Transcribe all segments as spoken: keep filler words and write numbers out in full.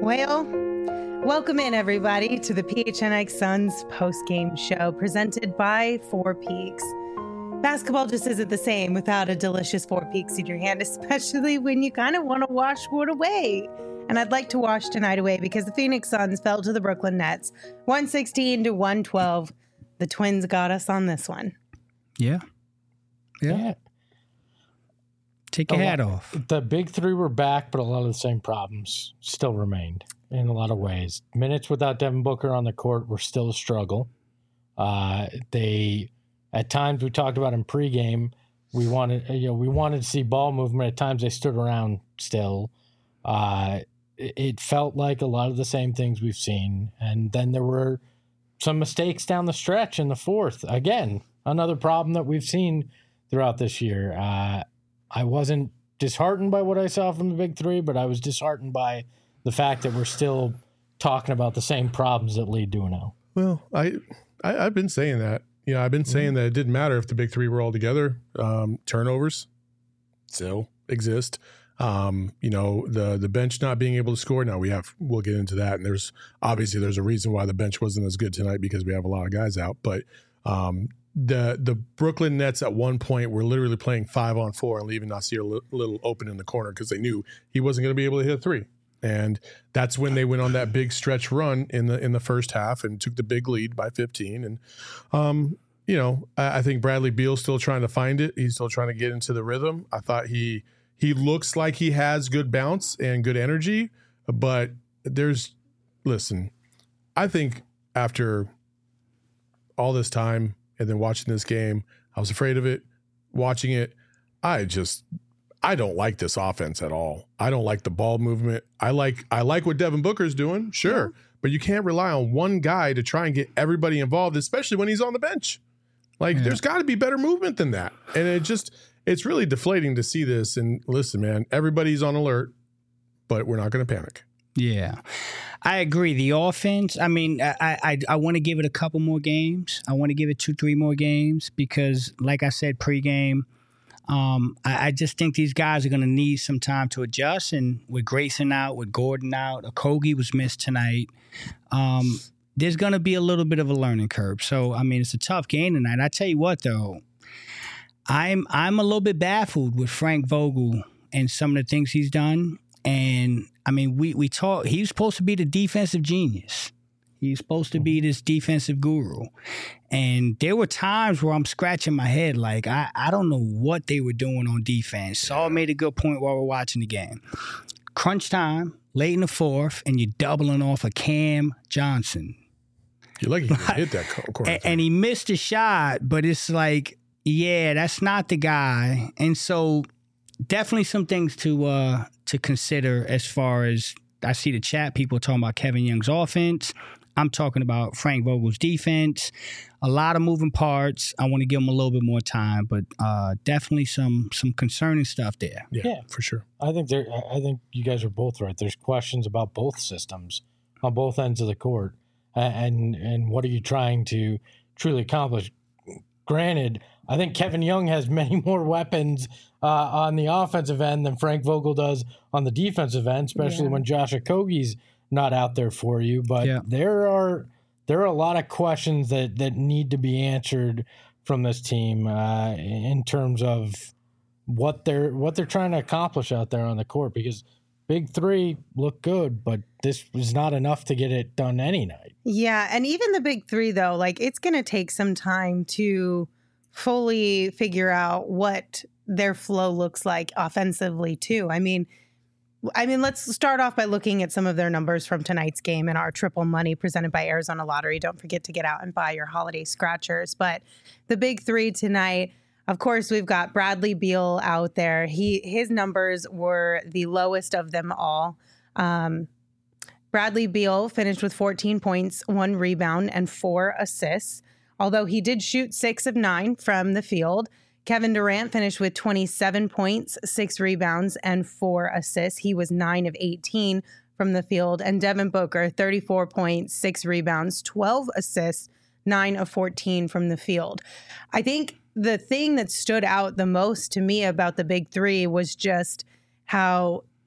Well, welcome in everybody to the P H N X Suns post-game show presented by Four Peaks. Basketball just isn't the same without a delicious Four Peaks in your hand, especially when you kind of want to wash one away. And I'd like to wash tonight away because the Phoenix Suns fell to the Brooklyn Nets, one sixteen to one twelve. The Twins got us on this one. Yeah. Yeah. yeah. Take your a hat lot, off. The big three were back, but a lot of the same problems still remained in a lot of ways. Minutes without Devin Booker on the court were still a struggle. Uh, they, at times, we talked about in pregame, we wanted, you know, we wanted to see ball movement. At times, they stood around still. Uh, it, it felt like a lot of the same things we've seen, and then there were some mistakes down the stretch in the fourth. Again, another problem that we've seen throughout this year. Uh, I wasn't disheartened by what I saw from the big three, but I was disheartened by the fact that we're still talking about the same problems that lead to an L. Well, I, I I've been saying that. You know, I've been saying mm-hmm. that it didn't matter if the big three were all together. Um, turnovers still exist. Um, you know, the the bench not being able to score. Now we have we'll get into that. And there's obviously there's a reason why the bench wasn't as good tonight because we have a lot of guys out. But um, the the Brooklyn Nets at one point were literally playing five on four and leaving Nasir a little open in the corner because they knew he wasn't going to be able to hit a three. And that's when they went on that big stretch run in the in the first half and took the big lead by fifteen. And um, you know, I, I think Bradley Beal's still trying to find it. He's still trying to get into the rhythm. I thought he he looks like he has good bounce and good energy, but there's listen, I think after all this time and then watching this game, I was afraid of it. Watching it, I just I don't like this offense at all. I don't like the ball movement. I like I like what Devin Booker's doing, sure, yeah. But you can't rely on one guy to try and get everybody involved, especially when he's on the bench. Like, yeah. There's got to be better movement than that. And it just it's really deflating to see this. And listen, man, everybody's on alert, but we're not going to panic. Yeah, I agree. The offense, I mean, I I, I want to give it a couple more games. I want to give it two, three more games because, like I said, pregame, um, I, I just think these guys are going to need some time to adjust. And with Grayson out, with Gordon out, Okogie was missed tonight. Um, there's going to be a little bit of a learning curve. So, I mean, it's a tough game tonight. I tell you what, though, I'm I'm a little bit baffled with Frank Vogel and some of the things he's done. And I mean, we we talk. He's supposed to be the defensive genius. He's supposed to be this defensive guru. And there were times where I'm scratching my head, like I, I don't know what they were doing on defense. Saul made a good point while we're watching the game. Crunch time, late in the fourth, and you're doubling off of Cam Johnson. You're lucky he hit that corner. and, and he missed a shot, but it's like, yeah, that's not the guy. And so definitely some things to uh, to consider as far as I see the chat people talking about Kevin Young's offense. I'm talking about Frank Vogel's defense. A lot of moving parts. I want to give him a little bit more time, but uh, definitely some some concerning stuff there. Yeah, yeah, for sure. I think there. I think you guys are both right. There's questions about both systems on both ends of the court, and and what are you trying to truly accomplish? Granted, I think Kevin Young has many more weapons uh, on the offensive end than Frank Vogel does on the defensive end, especially yeah. when Josh Okogie's not out there for you. But yeah. there are there are a lot of questions that, that need to be answered from this team uh, in terms of what they're what they're trying to accomplish out there on the court. Because big three look good, but this was not enough to get it done any night. Yeah, and even the big three, though, like it's going to take some time to fully figure out what their flow looks like offensively, too. I mean, I mean, let's start off by looking at some of their numbers from tonight's game and our triple money presented by Arizona Lottery. Don't forget to get out and buy your holiday scratchers. But the big three tonight, of course, we've got Bradley Beal out there. He his numbers were the lowest of them all. Um, Bradley Beal finished with fourteen points, one rebound, and four assists. Although he did shoot six of nine from the field. Kevin Durant finished with twenty-seven points, six rebounds, and four assists. He was nine of eighteen from the field. And Devin Booker, thirty-four points, six rebounds, twelve assists, nine of fourteen from the field. I think the thing that stood out the most to me about the big three was just how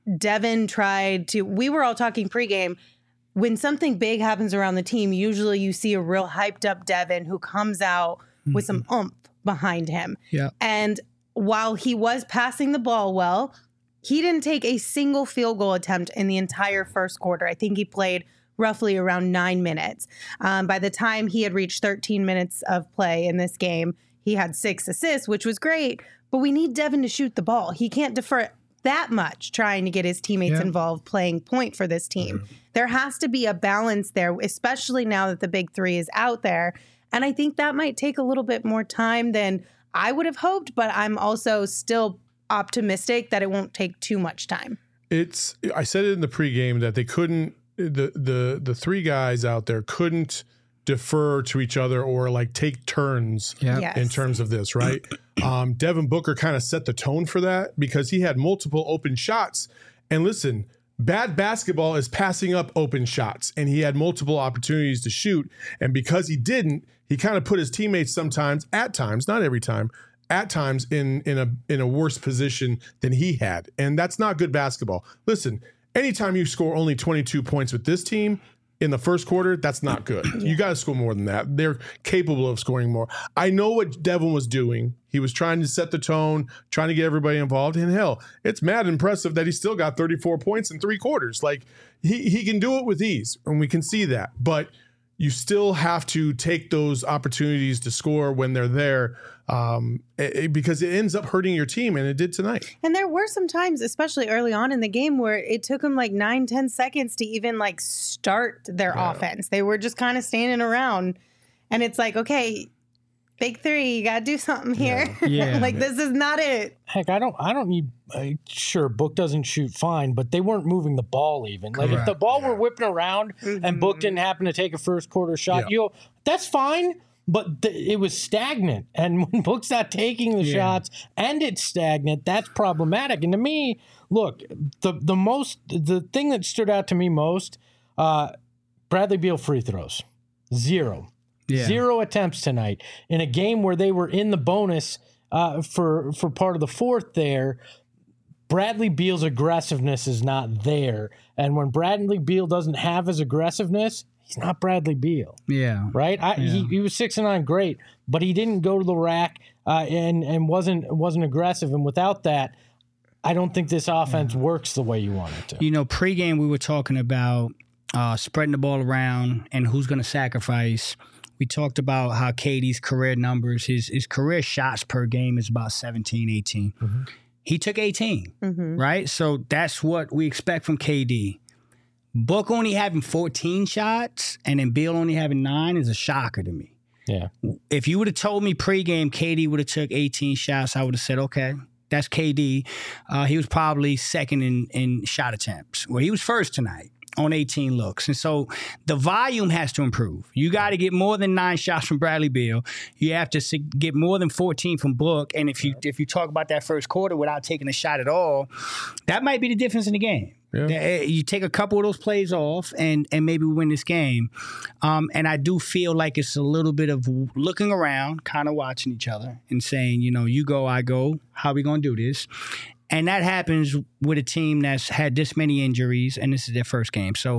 Devin tried to, we were all talking pregame. When something big happens around the team, usually you see a real hyped up Devin who comes out mm-hmm. with some oomph behind him. Yeah. And while he was passing the ball well, he didn't take a single field goal attempt in the entire first quarter. I think he played roughly around nine minutes. Um, by the time he had reached thirteen minutes of play in this game, he had six assists, which was great. But we need Devin to shoot the ball. He can't defer that much trying to get his teammates yeah. involved playing point for this team. Mm-hmm. There has to be a balance there, especially now that the big three is out there. And I think that might take a little bit more time than I would have hoped, but I'm also still optimistic that it won't take too much time. It's, I said it in the pregame that they couldn't, the the the three guys out there couldn't defer to each other or like take turns yeah. yes. in terms of this, right? um, Devin Booker kind of set the tone for that because he had multiple open shots. And listen, bad basketball is passing up open shots, and he had multiple opportunities to shoot. And because he didn't, he kind of put his teammates sometimes, at times, not every time, at times in in a in a worse position than he had. And that's not good basketball. Listen, anytime you score only twenty-two points with this team in the first quarter, that's not good. Yeah. You got to score more than that. They're capable of scoring more. I know what Devin was doing. He was trying to set the tone, trying to get everybody involved. And hell, it's mad impressive that he still got thirty-four points in three quarters. Like he he can do it with ease, and we can see that. But you still have to take those opportunities to score when they're there, um, it, because it ends up hurting your team, and it did tonight. And there were some times, especially early on in the game, where it took them like nine, ten seconds to even like start their yeah. offense. They were just kind of standing around, and it's like, okay, big three, you got to do something here. Yeah. Yeah. Like, this is not it. Heck, I don't I don't need uh, sure, Book doesn't shoot fine, but they weren't moving the ball even. Like, Correct. if the ball yeah. were whipping around mm-hmm. and Book didn't happen to take a first quarter shot, yeah. you go, that's fine. But th- it was stagnant. And when Book's not taking the yeah. shots and it's stagnant, that's problematic. And to me, look, the the most the thing that stood out to me most, uh, Bradley Beal free throws. Zero. Yeah. Zero attempts tonight in a game where they were in the bonus uh, for for part of the fourth there. Bradley Beal's aggressiveness is not there. And when Bradley Beal doesn't have his aggressiveness, he's not Bradley Beal. Yeah. Right? I, yeah. He, he was six and nine, great, but he didn't go to the rack uh, and, and wasn't wasn't aggressive. And without that, I don't think this offense yeah. works the way you want it to. You know, pregame we were talking about uh, spreading the ball around and who's going to sacrifice. We talked about how K D's career numbers, his his career shots per game is about seventeen, eighteen. Mm-hmm. He took eighteen, mm-hmm. right? So that's what we expect from K D. Book only having fourteen shots and then Beal only having nine is a shocker to me. Yeah. If you would have told me pregame K D would have took eighteen shots, I would have said, okay, that's K D. Uh, he was probably second in, in shot attempts. Well, he was first tonight on eighteen looks. And so the volume has to improve. You got to get more than nine shots from Bradley Beal. You have to get more than fourteen from Book. And if you if you talk about that first quarter without taking a shot at all, that might be the difference in the game. Yeah. You take a couple of those plays off and, and maybe we win this game. Um, and I do feel like it's a little bit of looking around, kind of watching each other and saying, you know, you go, I go. How are we going to do this? And that happens with a team that's had this many injuries, and this is their first game. So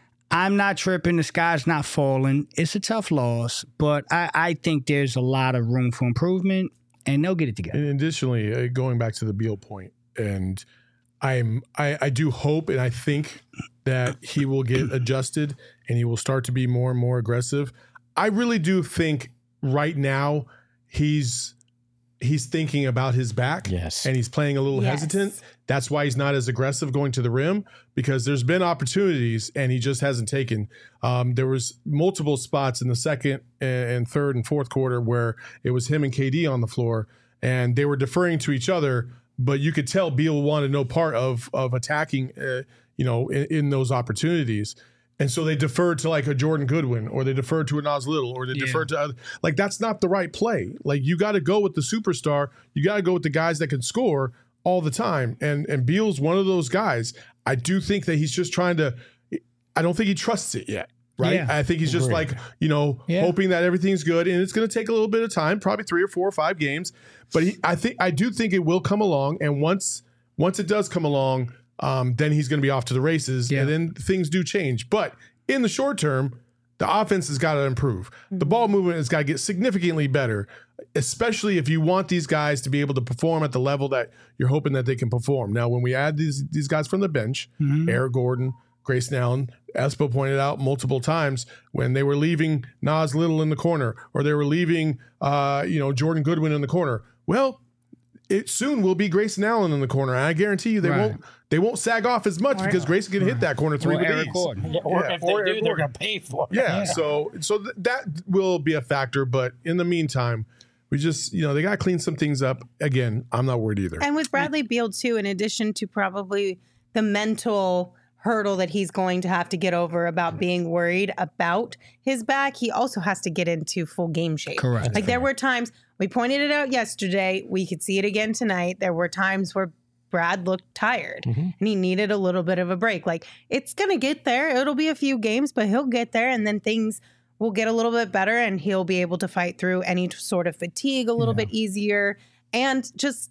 I'm not tripping. The sky's not falling. It's a tough loss, but I, I think there's a lot of room for improvement, and they'll get it together. And additionally, uh, going back to the Beal point, and I'm I, I do hope and I think that he will get adjusted and he will start to be more and more aggressive. I really do think right now he's he's thinking about his back. Yes. And he's playing a little yes. hesitant. That's why he's not as aggressive going to the rim, because there's been opportunities and he just hasn't taken. Um, there was multiple spots in the second and third and fourth quarter where it was him and K D on the floor and they were deferring to each other, but you could tell Beal wanted no part of of attacking, uh, you know, in, in those opportunities. And so they deferred to like a Jordan Goodwin, or they deferred to a Nas Little, or they yeah. deferred to other, like, that's not the right play. Like, you got to go with the superstar. You got to go with the guys that can score all the time. And and Beal's one of those guys. I do think that he's just trying to, I don't think he trusts it yet. Right. Yeah. I think he's just Agreed. like, you know, yeah. hoping that everything's good. And it's going to take a little bit of time, probably three or four or five games. But he, I think I do think it will come along. And once once it does come along, um, then he's going to be off to the races, Yeah. and then things do change. But in the short term, the offense has got to improve. The ball movement has got to get significantly better, especially if you want these guys to be able to perform at the level that you're hoping that they can perform. Now, when we add these these guys from the bench, Mhm. Eric Gordon, Grayson Allen, Espo pointed out multiple times when they were leaving Nas Little in the corner or they were leaving, uh, you know, Jordan Goodwin in the corner. Well, it soon will be Grayson Allen in the corner. And I guarantee you they Right. won't they won't sag off as much Or- because Grayson can hit that corner three Or with Eric ease. Gordon. Yeah, or Yeah, if or they Eric do, they're Gordon. going to pay for it. Yeah, so so th- that will be a factor, but in the meantime, we just you know they got to clean some things up. Again, I'm not worried either. And with Bradley Beal, too, in addition to probably the mental hurdle that he's going to have to get over about being worried about his back, he also has to get into full game shape. Correct. Like there were times, we pointed it out yesterday, we could see it again tonight. There were times where Brad looked tired Mhm. and he needed a little bit of a break. Like it's going to get there. It'll be a few games, but he'll get there and then things will get a little bit better and he'll be able to fight through any sort of fatigue a little Yeah. bit easier and just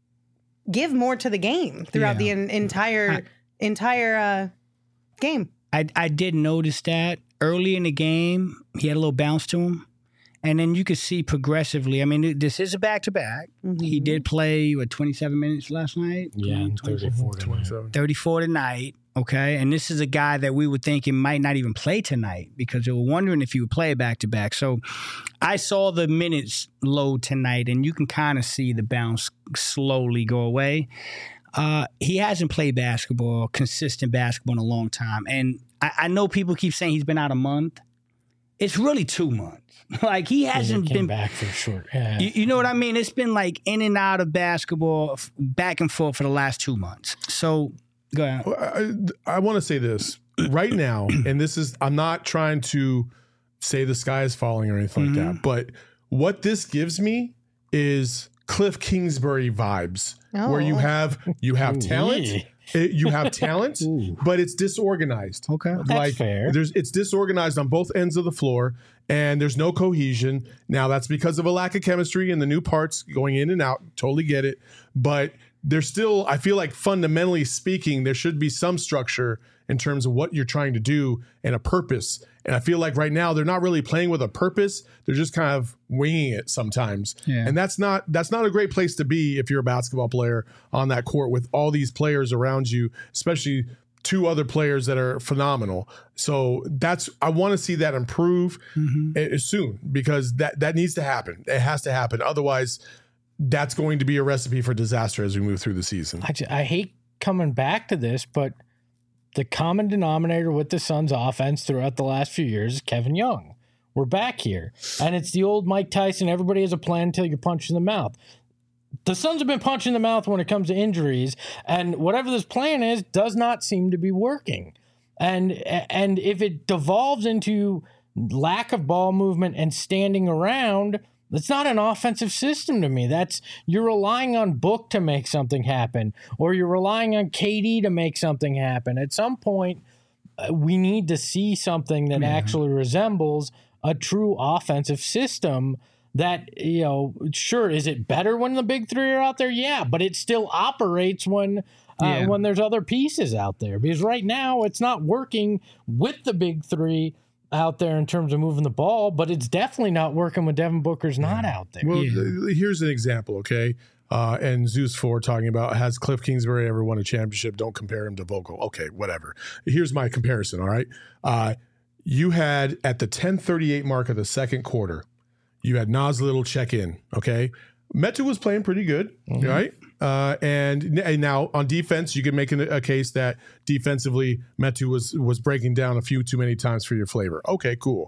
give more to the game throughout the Yeah. en- entire I- entire uh, game. I I did notice that early in the game he had a little bounce to him, and then you could see progressively. I mean, this is a back to back. He Mhm. did play what twenty-seven minutes last night. Yeah, and thirty-four tonight. twenty-seven. thirty-four tonight. Okay, and this is a guy that we were thinking might not even play tonight because they were wondering if he would play back to back. So I saw the minutes load tonight, and you can kind of see the bounce slowly go away. Uh, he hasn't played basketball, consistent basketball in a long time. And I, I know people keep saying he's been out a month. It's really two months. Like he hasn't He came been back for short. Yeah. You, you know what I mean? It's been like in and out of basketball, f- back and forth for the last two months. So go ahead. Well, I, I want to say this right now, and this is, I'm not trying to say the sky is falling or anything like that, but what this gives me is Cliff Kingsbury vibes, where you Oh. have you have Ooh, talent, yeah. it- you have talent, Ooh. but it's disorganized. Okay. That's fair. There's it's disorganized on both ends of the floor, and there's no cohesion. Now that's because of a lack of chemistry and the new parts going in and out. Totally get it, but there's still, I feel like fundamentally speaking, there should be some structure in terms of what you're trying to do and a purpose. And I feel like right now they're not really playing with a purpose. They're just kind of winging it sometimes. Yeah. And that's not that's not a great place to be if you're a basketball player on that court with all these players around you, especially two other players that are phenomenal. So that's I want to see that improve Mhm. a- soon because that that needs to happen. It has to happen. Otherwise, that's going to be a recipe for disaster as we move through the season. I, ju- I hate coming back to this, but the common denominator with the Suns offense throughout the last few years is Kevin Young. We're back here. And it's the old Mike Tyson, everybody has a plan until you're punched in the mouth. The Suns have been punched in the mouth when it comes to injuries, and whatever this plan is does not seem to be working. And and if it devolves into lack of ball movement and standing around, it's not an offensive system to me. That's you're relying on Book to make something happen, or you're relying on K D to make something happen. At some point, uh, we need to see something that Yeah. actually resembles a true offensive system. That, you know, sure, is it better when the big three are out there? Yeah, but it still operates when uh, Yeah. when there's other pieces out there. Because right now it's not working with the big three out there in terms of moving the ball, but it's definitely not working when Devin Booker's not out there. Well, Yeah. th- here's an example, okay? Uh, and Zeus four talking about, has Cliff Kingsbury ever won a championship? Don't compare him to Vogel. Okay, whatever. Here's my comparison, all right? Uh, you had, at the ten thirty-eight mark of the second quarter, you had Nas Little check in, okay? Metu was playing pretty good, Mhm. right? Uh, and, and now on defense, you can make an, a case that defensively Metu was was breaking down a few too many times for your flavor. Okay, cool.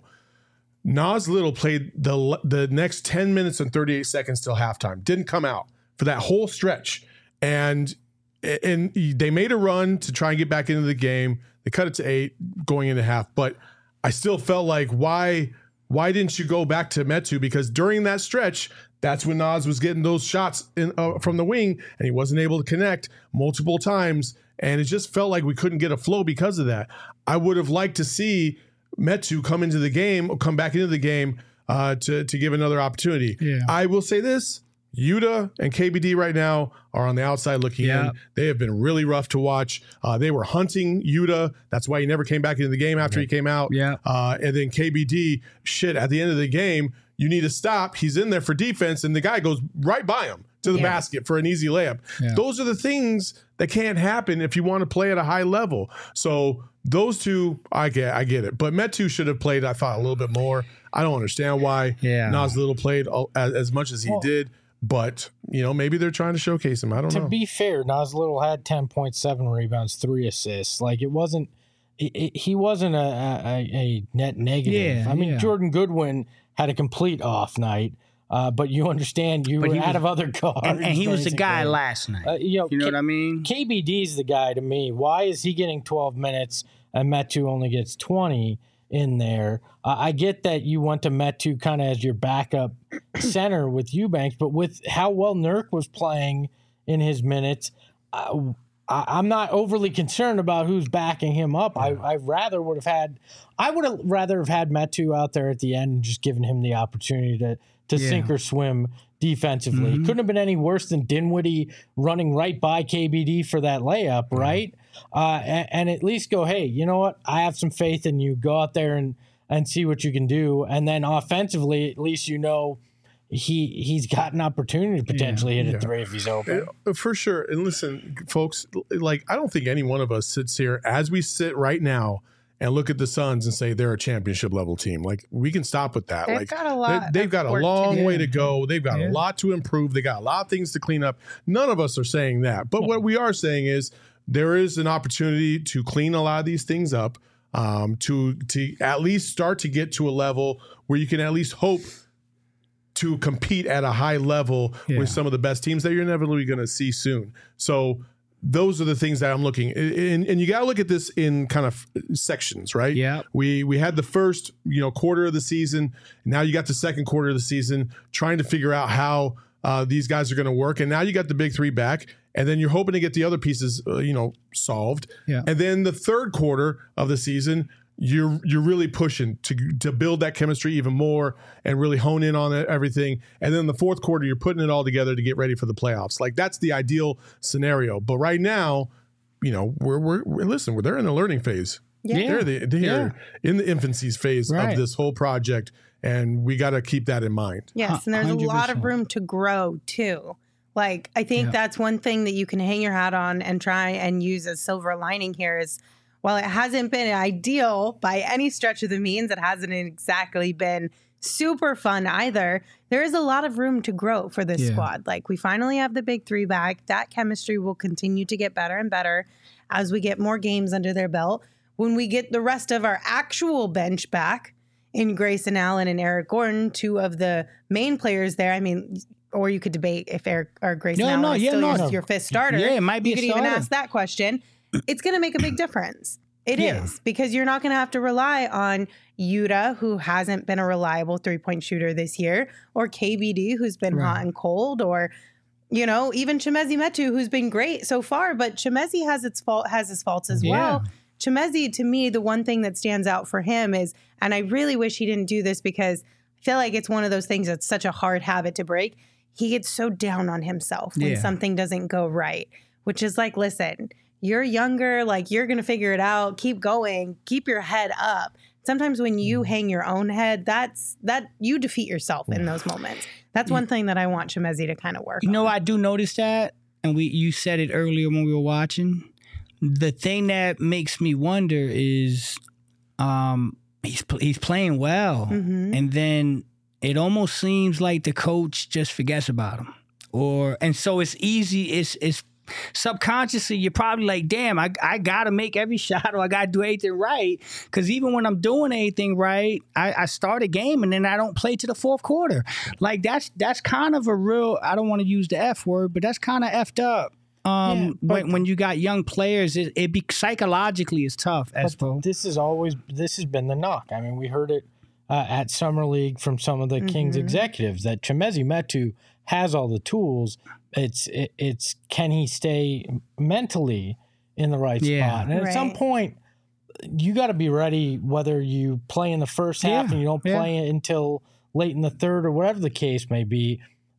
Nas Little played the the next ten minutes and thirty-eight seconds till halftime. Didn't come out for that whole stretch. And and they made a run to try and get back into the game. They cut it to eight going into half. But I still felt like, why why didn't you go back to Metu? Because during that stretch, that's when Nas was getting those shots in, uh, from the wing, and he wasn't able to connect multiple times. And it just felt like we couldn't get a flow because of that. I would have liked to see Metu come into the game or come back into the game uh, to, to give another opportunity. Yeah. I will say this. Yuta and K B D right now are on the outside looking Yeah. in. They have been really rough to watch. Uh, they were hunting Yuta. That's why he never came back into the game after he came out. Yeah. Uh, and then K B D, shit, at the end of the game, you need to stop. He's in there for defense, and the guy goes right by him to the Yeah. basket for an easy layup. Yeah. Those are the things that can't happen if you want to play at a high level. So those two, I get, I get it. But Metu should have played, I thought, a little bit more. I don't understand why Yeah. Nas Little played all- as, as much as he Well, did. But, you know, maybe they're trying to showcase him. I don't To know. be fair, Nas Little had ten point seven rebounds, three assists. Like it wasn't, it, it, he wasn't a, a, a net negative. Yeah, I mean, yeah. Jordan Goodwin had a complete off night, uh, but you understand you But were he out was- of other guards. And, and he was the guy basically. last night. Uh, you know, you know K- what I mean? K B D's the guy to me. Why is he getting twelve minutes and Metu only gets twenty in there? Uh, I get that you want to Metu kind of as your backup center with Eubanks, but with how well Nurk was playing in his minutes, uh, I, I'm not overly concerned about who's backing him up. I, I rather would have had, I would have rather have had Metu out there at the end and just given him the opportunity to to Yeah. sink or swim defensively. It couldn't have been any worse than Dinwiddie running right by K B D for that layup, right? Uh, and, and at least go, hey, you know what? I have some faith in you. Go out there and and see what you can do. And then offensively, at least you know he he's got an opportunity to potentially hit a Yeah. three if he's open. Uh, For sure. And listen, folks, like, I don't think any one of us sits here as we sit right now and look at the Suns and say they're a championship level team. Like, we can stop with that. They've like, got a lot they, have of got a work to long do. way to go. They've got Yeah. a lot to improve. They got a lot of things to clean up. None of us are saying that. But what we are saying is there is an opportunity to clean a lot of these things up, um, to to at least start to get to a level where you can at least hope to compete at a high level Yeah. with some of the best teams that you're inevitably going to see soon. So those are the things that I'm looking, and, and you got to look at this in kind of sections, right? Yeah. We we had the first you know quarter of the season. Now you got the second quarter of the season, trying to figure out how uh, these guys are going to work, and now you got the big three back, and then you're hoping to get the other pieces, uh, you know, solved. Yeah. And then the third quarter of the season, you're you're really pushing to to build that chemistry even more and really hone in on it, everything. And then the fourth quarter, you're putting it all together to get ready for the playoffs. Like, that's the ideal scenario. But right now, you know, we're we're, we're listen, we're they're in the learning phase. Yeah. They're the, they're in the infancy phase Right. of this whole project, and we got to keep that in mind. Yes, and there's a one hundred lot of percent. room to grow too. Like, I think Yeah. that's one thing that you can hang your hat on and try and use as silver lining here is while it hasn't been ideal by any stretch of the means, it hasn't exactly been super fun either. There is a lot of room to grow for this Yeah. squad. Like, we finally have the big three back. That chemistry will continue to get better and better as we get more games under their belt. When we get the rest of our actual bench back in Grayson Allen and Eric Gordon, two of the main players there. I mean, or you could debate if Eric or Grayson No, Allen no, is yeah, still no. your, your fifth starter. Yeah, it might be You a could even starter. ask that question. It's going to make a big difference. It is Yeah. because you're not going to have to rely on Yuta, who hasn't been a reliable three-point shooter this year, or K B D, who's been hot Right. and cold, or you know, even Chimezi Metu, who's been great so far. But Chimezi has its fault has his faults as Yeah. well. Chimezi, to me, the one thing that stands out for him is, and I really wish he didn't do this because I feel like it's one of those things that's such a hard habit to break. He gets so down on himself when Yeah. something doesn't go right, which is like, listen, you're younger, like you're going to figure it out. Keep going, keep your head up. Sometimes when you hang your own head, that's that you defeat yourself in those moments. That's one thing that I want Chimezi to kind of work You on. know, I do notice that, and we you said it earlier when we were watching. The thing that makes me wonder is, um, he's pl- he's playing well, Mhm. and then it almost seems like the coach just forgets about him, or and so it's easy. It's it's subconsciously you're probably like, damn, I I gotta make every shot or I gotta do everything right, because even when I'm doing anything right, I, I start a game and then I don't play to the fourth quarter. Like that's that's kind of a real. I don't want to use the F word, but that's kind of effed up. Um, Yeah, but- when when you got young players, it, it be psychologically is tough. But Espo. this is always this has been the knock. I mean, we heard it uh, at Summer League from some of the Kings executives that Chimezi Metu has all the tools. It's it, it's can he stay mentally in the right Yeah. spot? And at some Right. point, you got to be ready. Whether you play in the first half Yeah, and you don't yeah. play it until late in the third or whatever the case may be.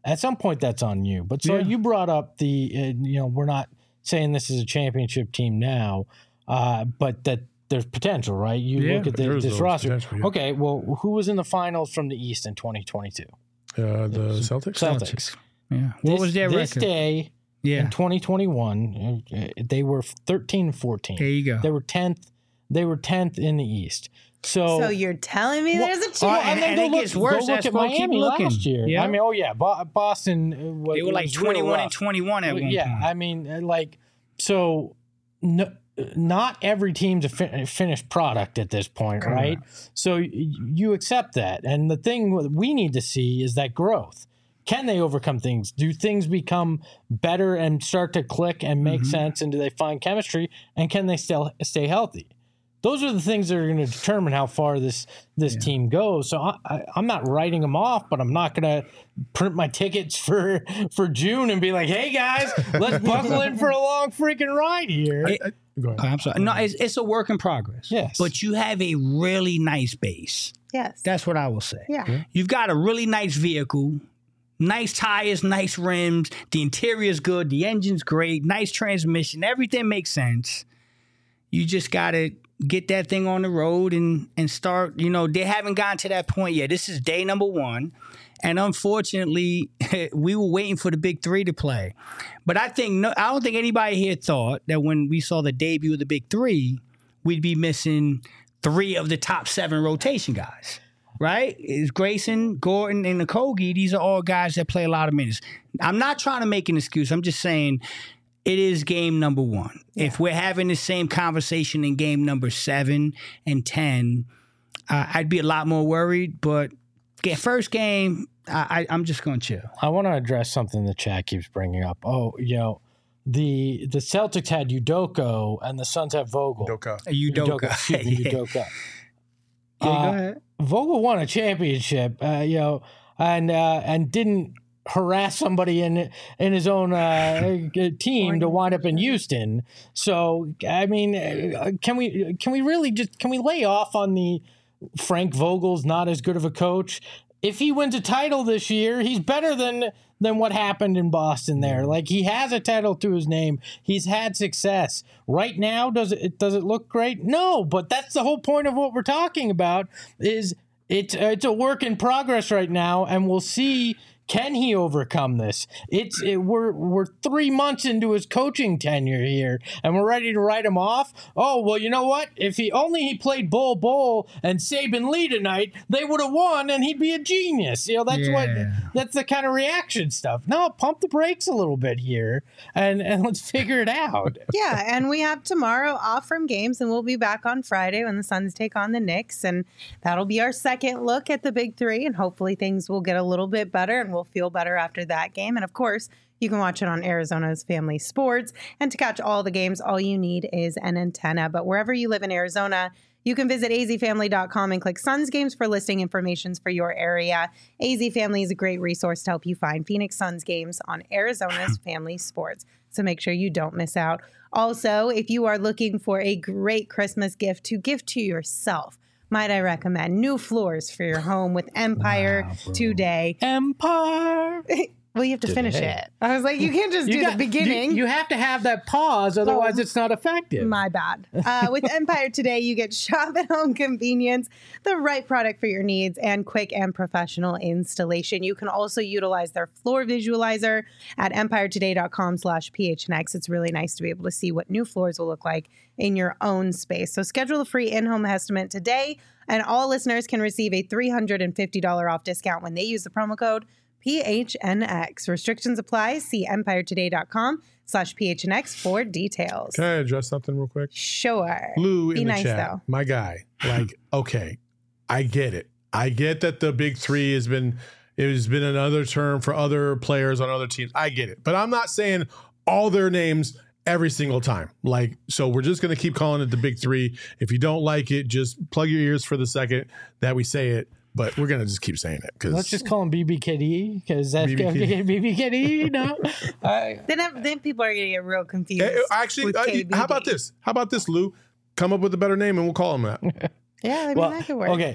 at some point that's on you. But so Yeah. you brought up the, uh, you know, we're not saying this is a championship team now, uh, but that there's potential, right? You Yeah, look at the, there's this always roster. potential, yeah. Okay, well, who was in the finals from the East in twenty twenty-two? Uh, the Celtics. Celtics. Yeah. What this, was their this record? day Yeah. in twenty twenty-one, uh, they were thirteen and fourteen. There you go. They were tenth. They were tenth in the East. So, So you're telling me Well, there's a chance? well, and- then and go it look- gets worse Go look as at well. Keep Miami looking. last year. Yeah. I mean, oh yeah, Bo- Boston. uh, Was, They were like was real twenty-one rough. and twenty-one at one Yeah, point. I mean, uh, like so. No, not every team's a fin- finished product at this point, Correct. right? So y- you accept that, and the thing we need to see is that growth. Can they overcome things? Do things become better and start to click and make Mm-hmm. sense? And do they find chemistry? And can they still stay healthy? Those are the things that are going to determine how far this this team goes. So I, I, I'm not writing them off, but I'm not going to print my tickets for for June and be like, "Hey guys, let's buckle in for a long freaking ride here." It- I- go ahead. Oh, I'm sorry. No, it's, it's a work in progress. Yes. But you have a really nice base. Yes. That's what I will say. yeah. You've got a really nice vehicle, nice tires, nice rims. The interior's good. The engine's great. Nice transmission. Everything makes sense. You just got to get that thing on the road and, and start. You know, they haven't gotten to that point yet. This is day number one. And unfortunately, we were waiting for the big three to play. But I think no, I don't think anybody here thought that when we saw the debut of the big three, we'd be missing three of the top seven rotation guys. Right? It's Grayson, Gordon, and Okogie. These are all guys that play a lot of minutes. I'm not trying to make an excuse. I'm just saying it is game number one. If we're having the same conversation in game number seven and ten, uh, I'd be a lot more worried. But get first game, I, I, I'm just going to chill. I want to address something the chat keeps bringing up. Oh, you know, the the Celtics had Udoko and the Suns have Vogel. Doka. Udoka. Excuse me, Yeah. Udoka. Yeah, Uh, go ahead. Vogel won a championship, uh, you know, and uh, and didn't harass somebody in in his own uh, team to wind up in Houston. So I mean, uh, can we can we really just can we lay off on the Frank Vogel's not as good of a coach? If he wins a title this year, he's better than than what happened in Boston there. Like he has a title to his name. He's had success. Right now, does it does it look great? No, but that's the whole point of what we're talking about is it's it's a work in progress right now, and we'll see. Can he overcome this? It's it, we're we're three months into his coaching tenure here, and we're ready to write him off. Oh well, you know what? If he only he played Bol Bol and Saban Lee tonight, they would have won, and he'd be a genius. You know that's what Yeah. that's the kind of reaction stuff. No, pump the brakes a little bit here, and and let's figure it out. Yeah, and we have tomorrow off from games, and we'll be back on Friday when the Suns take on the Knicks, and that'll be our second look at the big three, and hopefully things will get a little bit better, and we'll feel better after that game. And of course, you can watch it on Arizona's Family Sports, and to catch all the games, all you need is an antenna. But wherever you live in Arizona, you can visit a z family dot com and click Suns Games for listing information for your area. A Z Family is a great resource to help you find Phoenix Suns games on Arizona's Family Sports. So make sure you don't miss out. Also, if you are looking for a great Christmas gift to give to yourself, might I recommend new floors for your home with Empire Wow, bro. today. Empire. Well, you have to finish Today. it. I was like, you can't just do got- the beginning. You, you have to have that pause, otherwise Oh. it's not effective. My bad. Uh, with Empire today, you get shop at home convenience, the right product for your needs, and quick and professional installation. You can also utilize their floor visualizer at empire today dot com slash P H N X. It's really nice to be able to see what new floors will look like in your own space. So schedule a free in-home estimate today, and all listeners can receive a three hundred fifty dollars off discount when they use the promo code P H N X. Restrictions apply. See empire today dot com slash P H N X for details. Can I address something real quick? Sure. Lou Be in the nice, chat, though. my guy. Like, okay, I get it. I get that the big three has been it has been another term for other players on other teams. I get it, but I'm not saying all their names every single time. Like, so we're just gonna keep calling it the big three. If you don't like it, just plug your ears for the second that we say it. But we're gonna just keep saying it because Let's just call him B B K D because that's B B K D. B B K D. No, I, Then, then people are going to get real confused. Eh, eh, actually, with uh, K B D. how about this? How about this, Lou? Come up with a better name and we'll call him that. Yeah, I mean, well, that could work. okay.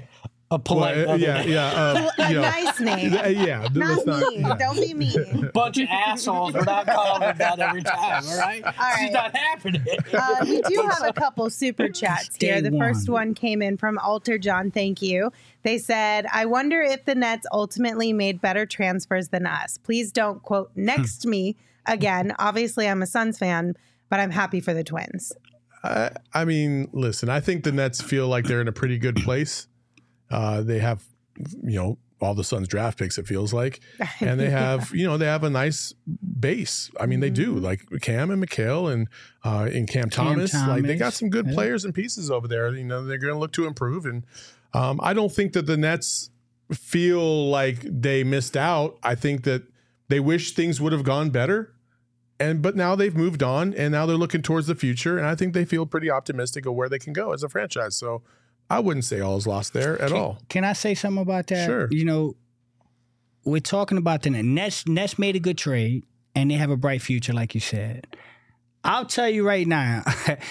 A polite Well, uh, yeah, yeah. Uh, A you know, nice name. uh, yeah, th- Not let's not- mean. yeah. Don't be mean. bunch of assholes. We're not calling her that every time, all right? All It's right. not happening. Uh, we do have a couple super chats Day here. The one. first one came in from Alter John. Thank you. They said, I wonder if the Nets ultimately made better transfers than us. Please don't quote next me again. Obviously, I'm a Suns fan, but I'm happy for the Twins. I, I mean, listen, I think the Nets feel like they're in a pretty good place. Uh, they have, you know, all the Suns draft picks, it feels like. And they have, you know, they have a nice base. I mean, they do. Like Cam and Mikhail and uh, and Cam, Cam Thomas. Like they got Thomas, some good yeah. players and pieces over there. You know, they're going to look to improve. And um, I don't think that the Nets feel like they missed out. I think that they wish things would have gone better. And but now they've moved on and now they're looking towards the future. And I think they feel pretty optimistic of where they can go as a franchise. So I wouldn't say all is lost there at Can, all. can I say something about that? Sure. You know, we're talking about the Nets. Nets made a good trade, and they have a bright future, like you said. I'll tell you right now,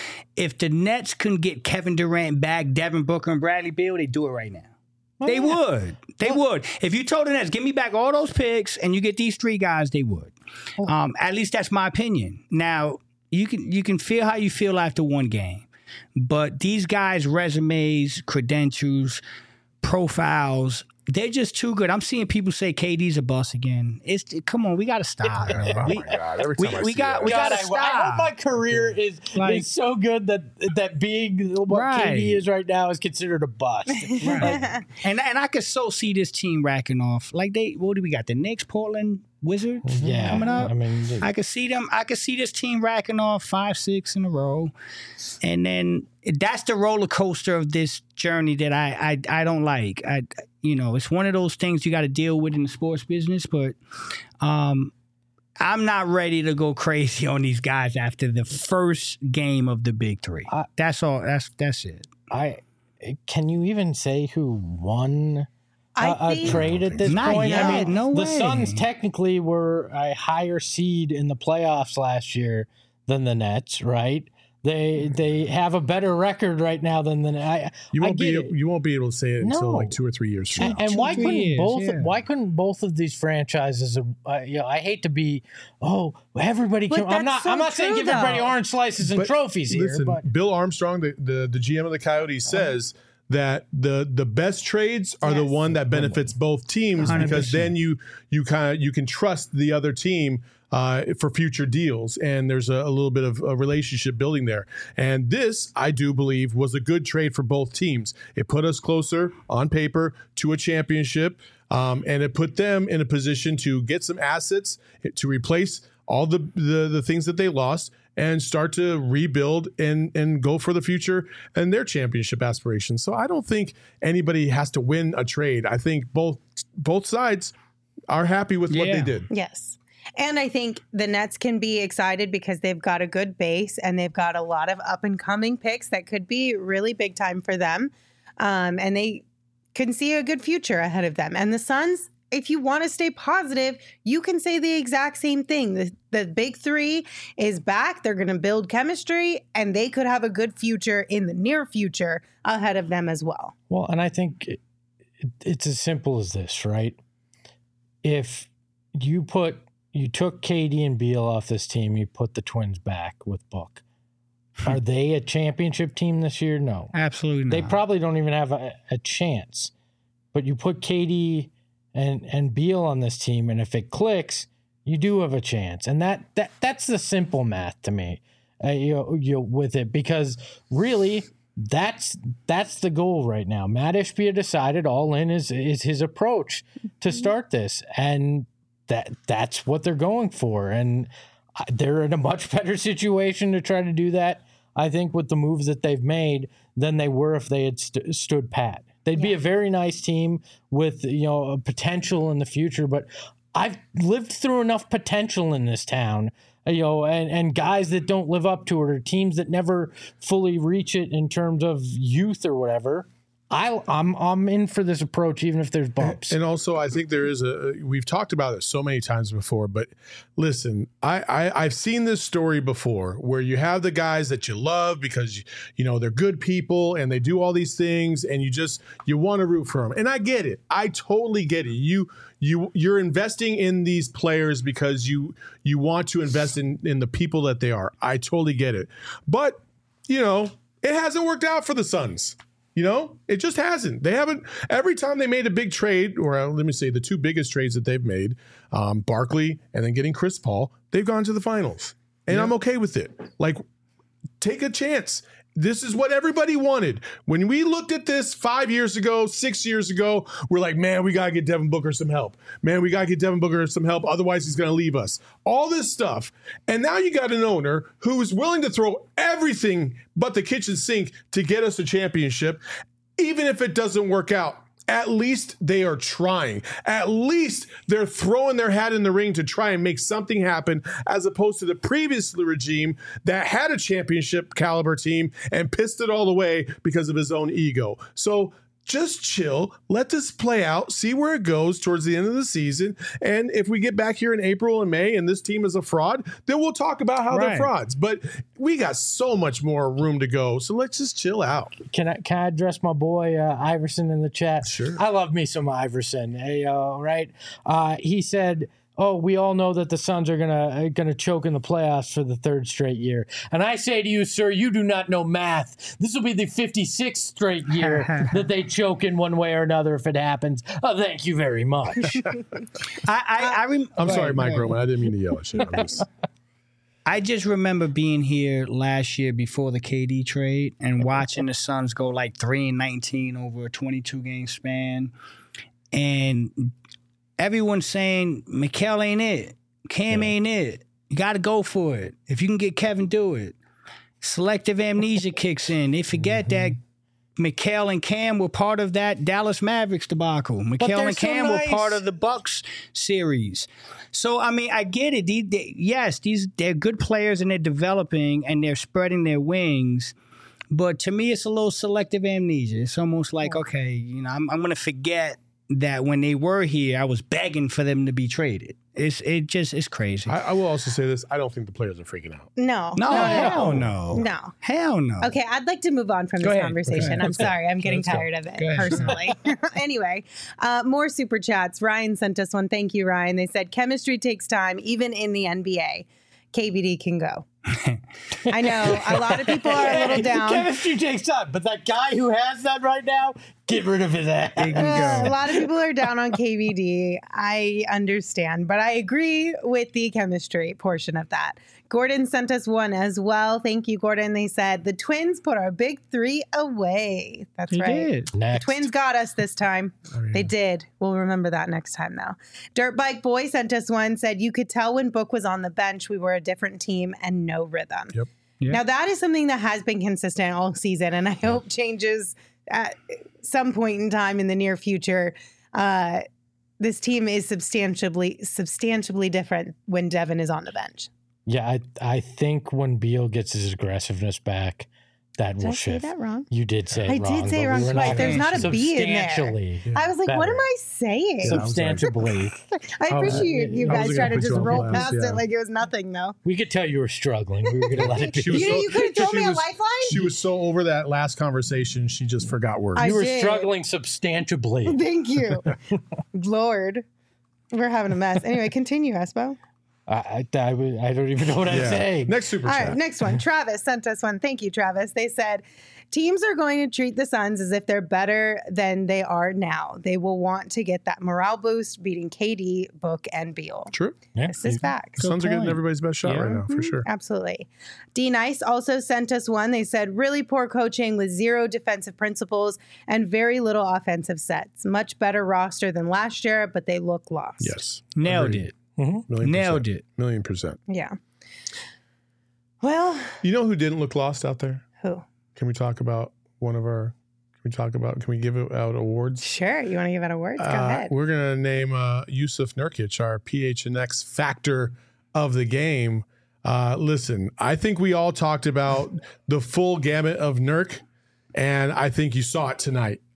if the Nets couldn't get Kevin Durant back, Devin Booker, and Bradley Beal, they'd do it right now. Oh, they yeah. would. They would. If you told the Nets, give me back all those picks, and you get these three guys, they would. Oh. Um, at least that's my opinion. Now, you can you can feel how you feel after one game. But these guys' resumes, credentials, profiles, they're just too good. I'm seeing people say K D's a bust again. It's come on, we got to stop, man. Oh We, my God. Every we- time I we see got- that. we God, gotta I, I stop. hope my career is Like- is so good that that being what Right. K D is right now is considered a bust. and and I could so see this team racking off. Like they, what do we got? The Knicks, Portland Wizards, Yeah, coming up. I mean, I could see them. I could see this team racking off five, six in a row, and then that's the roller coaster of this journey that I I, I don't like. I you know it's one of those things you got to deal with in the sports business, but um, I'm not ready to go crazy on these guys after the first game of the Big Three. I- that's all. That's that's it. I can you even say who won I a, a think- trade at this Not point? yet, I mean, no the way. Suns technically were a higher seed in the playoffs last year than the Nets, right? They they have a better record right now than the I. You I won't get be it. you won't be able to say it until No. like two or three years from And, now. and Two, why three couldn't years, both? yeah. Why couldn't both of these franchises? Uh, you know, I hate to be. Oh, everybody But can. I'm that's not. so I'm not saying true, give everybody though. orange slices and But trophies here, Listen, but Bill Armstrong, the, the the G M of the Coyotes, says that the the best trades are the Yes. one that benefits both teams one hundred because percent. then you you kind of you can trust the other team uh, for future deals, and there's a, a little bit of a relationship building there. And this, I do believe, was a good trade for both teams. It put us closer on paper to a championship, um, and it put them in a position to get some assets to replace all the, the the things that they lost and start to rebuild and and go for the future and their championship aspirations. So I don't think anybody has to win a trade. I think both both sides are happy with what Yeah. they did. Yes. And I think the Nets can be excited because they've got a good base and they've got a lot of up and coming picks that could be really big time for them. Um, and they can see a good future ahead of them. And the Suns, if you want to stay positive, you can say the exact same thing. The, the big three is back. They're going to build chemistry and they could have a good future in the near future ahead of them as well. well, and I think it, it, it's as simple as this, right? If you put you took K D and Beal off this team, you put the Twins back with Book. Are they a championship team this year? No. Absolutely not. They probably don't even have a, a chance. But you put K D and and Beal on this team, and if it clicks, you do have a chance. And that that that's the simple math to me, uh, you know, you know, with it, because really that's that's the goal right now. Matt Ishbia decided all in is is his approach to start this, and that that's what they're going for, and they're in a much better situation to try to do that, I think, with the moves that they've made than they were if they had st- stood pat. They'd be a very nice team with, you know, a potential in the future, but I've lived through enough potential in this town, you know, and, and guys that don't live up to it or teams that never fully reach it in terms of youth or whatever. I, I'm I'm in for this approach, even if there's bumps. And also, I think there is a. We've talked about it so many times before, but listen, I, I I've seen this story before where you have the guys that you love because you know they're good people and they do all these things, and you just you want to root for them. And I get it. I totally get it. You you you're investing in these players because you you want to invest in in the people that they are. I totally get it. But you know, it hasn't worked out for the Suns. You know, it just hasn't. They haven't. Every time they made a big trade, or uh, let me say the two biggest trades that they've made, um, Barkley and then getting Chris Paul, they've gone to the finals. And yeah. I'm okay with it. Like, take a chance. This is what everybody wanted. When we looked at this five years ago, six years ago, we're like, man, we got to get Devin Booker some help. Man, we got to get Devin Booker some help. Otherwise, he's going to leave us. All this stuff. And now you got an owner who is willing to throw everything but the kitchen sink to get us a championship, even if it doesn't work out. At least they are trying. At least they're throwing their hat in the ring to try and make something happen, as opposed to the previous regime that had a championship caliber team and pissed it all away because of his own ego. So just chill, let this play out, see where it goes towards the end of the season. And if we get back here in April and May and this team is a fraud, then we'll talk about how right. they're frauds. But we got so much more room to go. So let's just chill out. Can I can I address my boy uh, Iverson in the chat? Sure. I love me some Iverson. Hey, uh, right? Uh, he said, oh, we all know that the Suns are gonna gonna choke in the playoffs for the third straight year. And I say to you, sir, you do not know math. This will be the fifty-sixth straight year that they choke in one way or another if it happens. Oh, thank you very much. I I, I rem- I'm sorry, Mike Roman. I didn't mean to yell at you. I'm just... I just remember being here last year before the K D trade and watching the Suns go like three and nineteen over a twenty-two game span, and everyone's saying Mikal ain't it, Cam yeah. ain't it. You got to go for it. If you can get Kevin, do it. Selective amnesia kicks in. They forget mm-hmm. that Mikal and Cam were part of that Dallas Mavericks debacle. Mikal and Cam so nice. were part of the Bucks series. So I mean, I get it. These, they, yes, these they're good players and they're developing and they're spreading their wings. But to me, it's a little selective amnesia. It's almost like, okay, you know, I'm, I'm going to forget that when they were here, I was begging for them to be traded. It's it just it's crazy. I, I will also say this: I don't think the players are freaking out. No, no, no hell no, no, hell no. Okay, I'd like to move on from Go this ahead. conversation. I'm sorry, I'm getting Let's tired go. of it personally. Anyway, uh, more super chats. Ryan sent us one. Thank you, Ryan. They said chemistry takes time, even in the N B A. K B D can go. I know a lot of people are a little down. Chemistry takes time, but that guy who has that right now, get rid of his ass. Uh, a lot of people are down on K B D. I understand, but I agree with the chemistry portion of that. Gordon sent us one as well. Thank you, Gordon. They said the Twins put our big three away. That's he right. Did. Next. The Twins got us this time. Oh, yeah. They did. We'll remember that next time, though. Dirt Bike Boy sent us one. Said you could tell when Book was on the bench, we were a different team and no rhythm. Yep. Yep. Now that is something that has been consistent all season, and I hope changes at some point in time in the near future. Uh, this team is substantially substantially different when Devin is on the bench. Yeah, I I think when Beal gets his aggressiveness back, that did will I shift. say that wrong? You did say I it wrong. did say it but wrong we twice. There's not a B in there. Substantially. I was like, better. what am I saying? Substantially. I appreciate you I guys was trying to gonna put just you on roll blast, past yeah. it like it was nothing, though. We could tell you were struggling. We were going to let it be. She was You, so- you could have thrown she me was- a lifeline? She was so over that last conversation, she just forgot words. I You were did. struggling substantially. Thank you. Lord. We're having a mess. Anyway, continue, Espo. I, I, I, would- I don't even know what I'd Yeah. say. Next super All chat. right, next one. Travis sent us one. Thank you, Travis. They said, teams are going to treat the Suns as if they're better than they are now. They will want to get that morale boost, beating K D, Book, and Beal. True. Yeah. This is facts. Suns are getting point. everybody's best shot Yeah. right now, for Mhm, sure. Absolutely. D Nice also sent us one. They said, really poor coaching with zero defensive principles and very little offensive sets. Much better roster than last year, but they look lost. Yes. Nailed Agreed. it. Mm-hmm. Million Nailed percent. it. Million percent. Yeah. Well, You know who didn't look lost out there? who? Can we talk about one of our, can we talk about, can we give out awards? Sure. You want to give out awards? Go Uh, ahead. We're going to name uh, Yusuf Nurkic our P H N X factor of the game. Uh, listen, I think we all talked about the full gamut of Nurk, and I think you saw it tonight.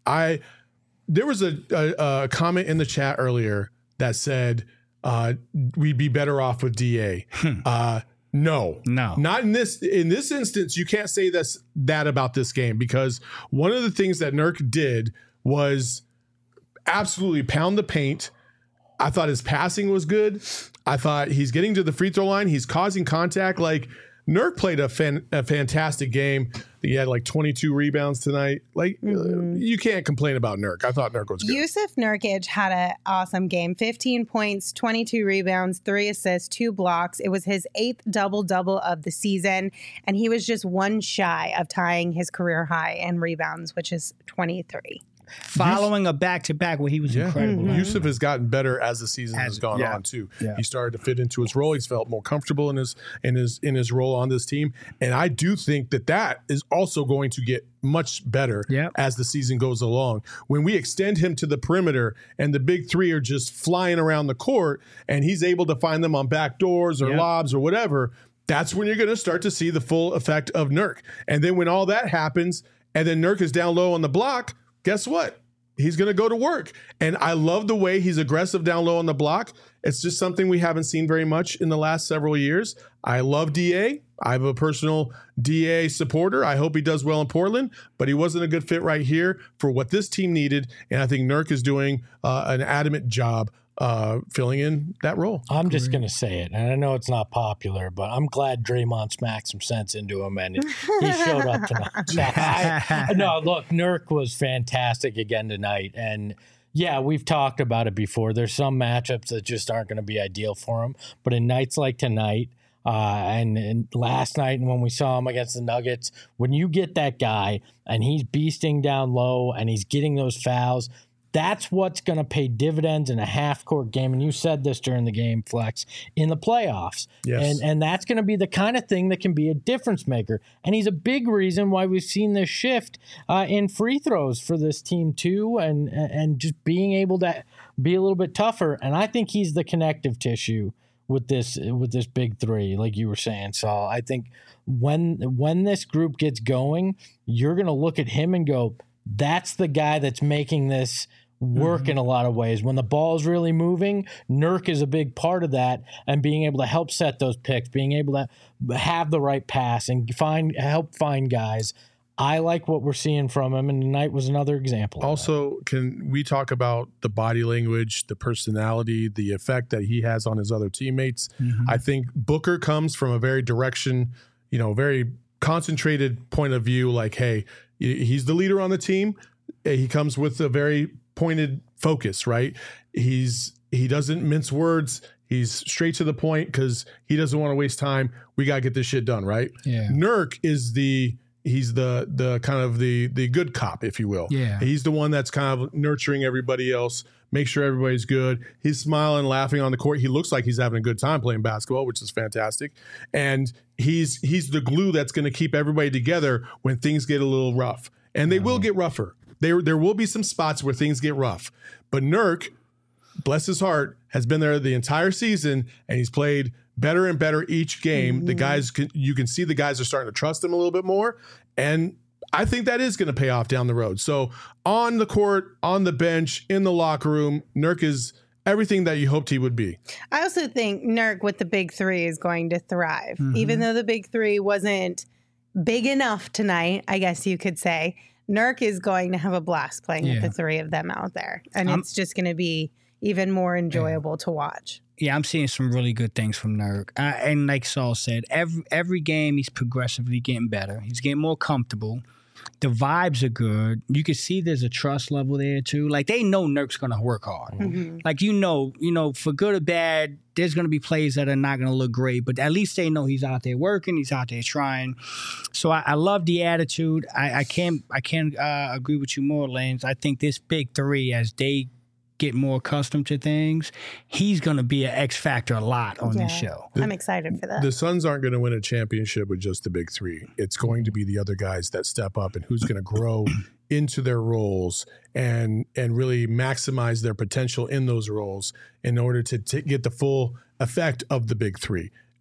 I there was a, a, a comment in the chat earlier that said uh, we'd be better off with D A. uh, no, No. not in this in this instance. You can't say this that about this game, because one of the things that Nurk did was absolutely pound the paint. I thought his passing was good. I thought he's getting to the free throw line. He's causing contact. Like, Nurk played a, fan, a fantastic game. He had like twenty-two rebounds tonight. Like, mm-hmm. you can't complain about Nurk. I thought Nurk was good. Yusuf Nurkic had an awesome game. fifteen points, twenty-two rebounds, three assists, two blocks. It was his eighth double-double of the season, and he was just one shy of tying his career high in rebounds, which is twenty-three. Following a back-to-back where he was yeah. incredible. Mm-hmm. Yusuf has gotten better as the season As- has gone yeah. on too. Yeah. He started to fit into his role. He's felt more comfortable in his in his in his role on this team, and I do think that that is also going to get much better Yep. as the season goes along. When we extend him to the perimeter and the big three are just flying around the court, and he's able to find them on back doors or Yep. lobs or whatever, that's when you're going to start to see the full effect of Nurk. And then when all that happens, and then Nurk is down low on the block, guess what? He's going to go to work. And I love the way he's aggressive down low on the block. It's just something we haven't seen very much in the last several years. I love D A. I'm a personal D A supporter. I hope he does well in Portland, but he wasn't a good fit right here for what this team needed. And I think Nurk is doing uh, an adamant job uh, filling in that role. I'm just going to say it, and I know it's not popular, but I'm glad Draymond smacked some sense into him, and he showed up tonight. I, no, look, Nurk was fantastic again tonight, and yeah, we've talked about it before. There's some matchups that just aren't going to be ideal for him, but in nights like tonight, uh, and, and last night, and when we saw him against the Nuggets, when you get that guy and he's beasting down low and he's getting those fouls, that's what's going to pay dividends in a half-court game. And you said this during the game, Flex, in the playoffs. Yes. And and that's going to be the kind of thing that can be a difference maker. And he's a big reason why we've seen this shift uh, in free throws for this team too, and and just being able to be a little bit tougher. And I think he's the connective tissue with this with this big three, like you were saying, Saul. I think when when this group gets going, you're going to look at him and go, that's the guy that's making this work mm-hmm. in a lot of ways. When the ball is really moving, Nurk is a big part of that, and being able to help set those picks, being able to have the right pass and find help find guys. I like what we're seeing from him, and tonight was another example. Also, can we talk about the body language, the personality, the effect that he has on his other teammates? Mm-hmm. I think Booker comes from a very direction, you know, very concentrated point of view, like, hey, he's the leader on the team. He comes with a very pointed focus, right? He's he doesn't mince words. He's straight to the point because he doesn't want to waste time. We got to get this shit done, right? Yeah. Nurk is the he's the the kind of the the good cop, if you will. Yeah. He's the one that's kind of nurturing everybody else, make sure everybody's good. He's smiling, laughing on the court. He looks like he's having a good time playing basketball, which is fantastic. And he's he's the glue that's going to keep everybody together when things get a little rough. And they will get rougher. There, there will be some spots where things get rough. But Nurk, bless his heart, has been there the entire season, and he's played better and better each game. Mm-hmm. The guys, can, you can see the guys are starting to trust him a little bit more. And I think that is going to pay off down the road. So on the court, on the bench, in the locker room, Nurk is everything that you hoped he would be. I also think Nurk with the big three is going to thrive. Mm-hmm. Even though the big three wasn't big enough tonight, I guess you could say, Nurk is going to have a blast playing yeah. with the three of them out there. And I'm, it's just going to be even more enjoyable yeah. to watch. Yeah, I'm seeing some really good things from Nurk. Uh, and like Saul said, every every game he's progressively getting better. He's getting more comfortable. The vibes are good. You can see there's a trust level there too. Like they know Nurk's going to work hard. Mm-hmm. Like you know, you know, for good or bad, there's going to be plays that are not going to look great, but at least they know he's out there working. He's out there trying. So I, I love the attitude. I, I can't I can't uh, agree with you more, Lanes. I think this big three, as they get more accustomed to things, he's going to be an X factor a lot on yeah. this show. I'm excited for that. The Suns aren't going to win a championship with just the big three. It's going to be the other guys that step up and who's going to grow into their roles and and really maximize their potential in those roles in order to t- get the full effect of the big three.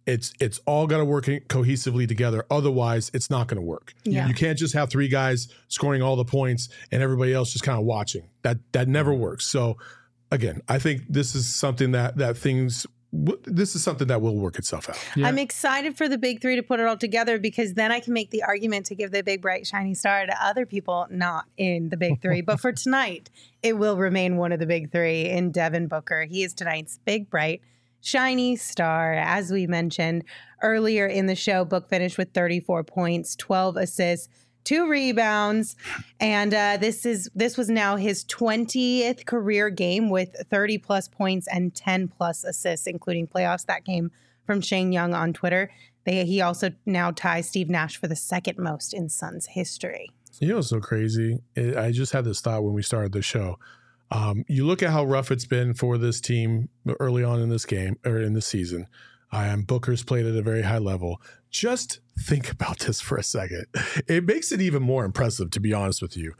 It's it's all got to work cohesively together. Otherwise, it's not going to work. Yeah. You can't just have three guys scoring all the points and everybody else just kind of watching. That that never works. So, again, I think this is something that that things. This is something that will work itself out. Yeah. I'm excited for the big three to put it all together because then I can make the argument to give the big, bright, shiny star to other people not in the big three. But for tonight, it will remain one of the big three in Devin Booker. He is tonight's big, bright, shiny star. As we mentioned earlier in the show, Book finished with thirty-four points, twelve assists, two rebounds, and uh, this is this was now his twentieth career game with thirty plus points and ten plus assists, including playoffs. That came from Shane Young on Twitter. They, he also now ties Steve Nash for the second most in Suns history. You know what's so crazy? I just had this thought when we started the show. Um, you look at how rough it's been for this team early on in this game or in this season. Um, Booker's played at a very high level. Just think about this for a second. It makes it even more impressive, to be honest with you.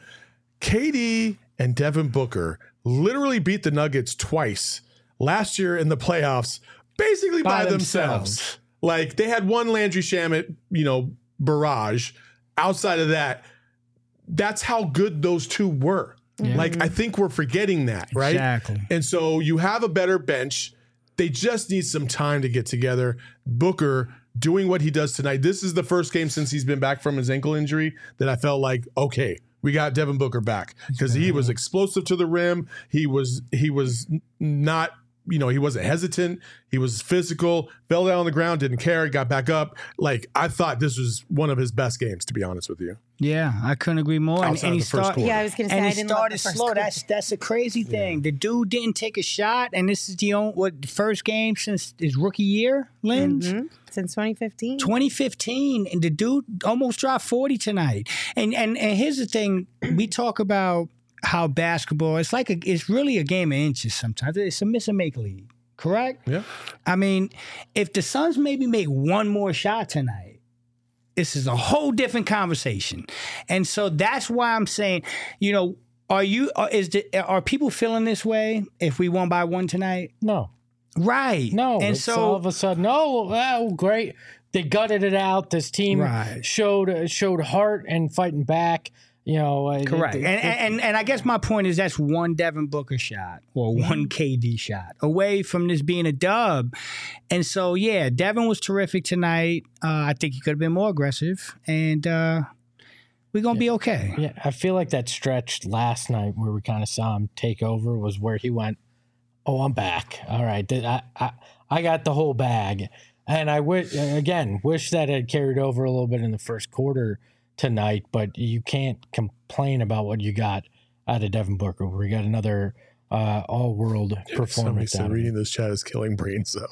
K D and Devin Booker literally beat the Nuggets twice last year in the playoffs, basically by, by themselves. themselves. Like they had one Landry Shamet, you know, barrage. Outside of that, that's how good those two were. Yeah. Like I think we're forgetting that, right? Exactly. And so you have a better bench. They just need some time to get together. Booker doing what he does tonight. This is the first game since he's been back from his ankle injury that I felt like, okay, we got Devin Booker back because he was explosive to the rim. He was he was not, you know, he wasn't hesitant. He was physical, fell down on the ground, didn't care, got back up. Like I thought this was one of his best games, to be honest with you. Yeah, I couldn't agree more. And, and he started. Yeah, I was going to say. And I he didn't started love the first slow. quarter. That's that's a crazy thing. Yeah. The dude didn't take a shot, and this is the only what the first game since his rookie year, Linz. Mm-hmm. Since twenty fifteen. twenty fifteen, and the dude almost dropped forty tonight. And and and here's the thing: we talk about how basketball. It's like a, it's really a game of inches. Sometimes it's a miss and make league. Correct? Yeah. I mean, if the Suns maybe make one more shot tonight, this is a whole different conversation. And so that's why I'm saying, you know, are you are, is the, are people feeling this way if we won by one tonight? No. Right. No. And it's so all of a sudden, oh, oh, great. They gutted it out. This team right. showed showed heart and fighting back. You know, correct. It, it, and, and and I guess my point is that's one Devin Booker shot or one K D shot away from this being a dub. And so, yeah, Devin was terrific tonight. Uh, I think he could have been more aggressive, and uh, we're going to yeah. be okay. Yeah, I feel like that stretch last night where we kind of saw him take over was where he went, oh, I'm back. All right, I, I, I got the whole bag. And I, w- again, wish that had carried over a little bit in the first quarter tonight, but you can't complain about what you got out of Devin Booker. We got another uh, all-world performance. Somebody said reading this chat is killing brain cells.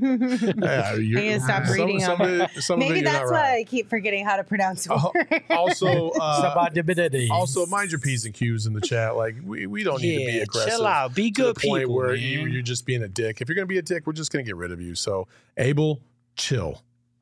yeah, you're, I gotta stop reading some, them. Somebody, somebody Maybe that's why right. I keep forgetting how to pronounce words. Also, uh, also, mind your P's and Q's in the chat. Like we, we don't need yeah, to be aggressive. Chill out. Be good to the point people, where man. you, you're just being a dick. If you're gonna be a dick, we're just gonna get rid of you. So, Abel, chill.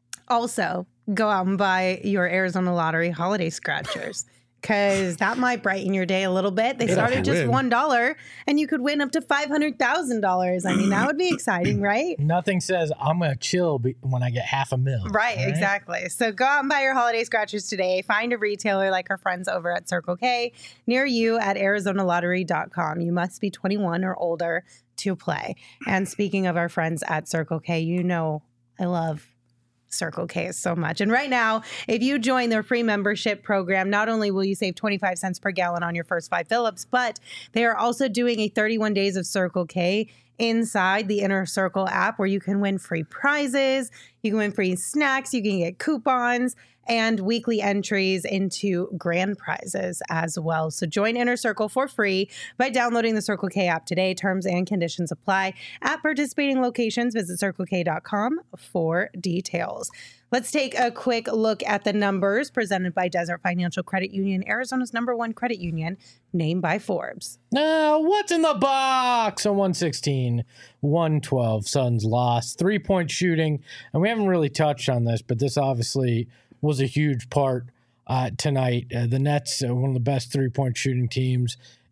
Also, go out and buy your Arizona Lottery holiday scratchers because that might brighten your day a little bit. They started at just one dollar, and you could win up to five hundred thousand dollars. I mean, that would be exciting, right? Nothing says I'm going to chill when I get half a mil. Right, right, exactly. So go out and buy your holiday scratchers today. Find a retailer like our friends over at Circle K near you at arizona lottery dot com. You must be twenty-one or older to play. And speaking of our friends at Circle K, you know I love Circle K so much. And right now, if you join their free membership program, not only will you save twenty-five cents per gallon on your first five fill-ups, but they are also doing a thirty-one days of Circle K inside the Inner Circle app where you can win free prizes, you can win free snacks, you can get coupons, and weekly entries into grand prizes as well. So join Inner Circle for free by downloading the Circle K app today. Terms and conditions apply. At participating locations, visit circle k dot com for details. Let's take a quick look at the numbers presented by Desert Financial Credit Union, Arizona's number one credit union, named by Forbes. Now, what's in the box? On one sixteen, one twelve, Suns lost. Three-point shooting, and we haven't really touched on this, but this obviously was a huge part uh, tonight. Uh, the Nets, uh, one of the best three-point shooting teams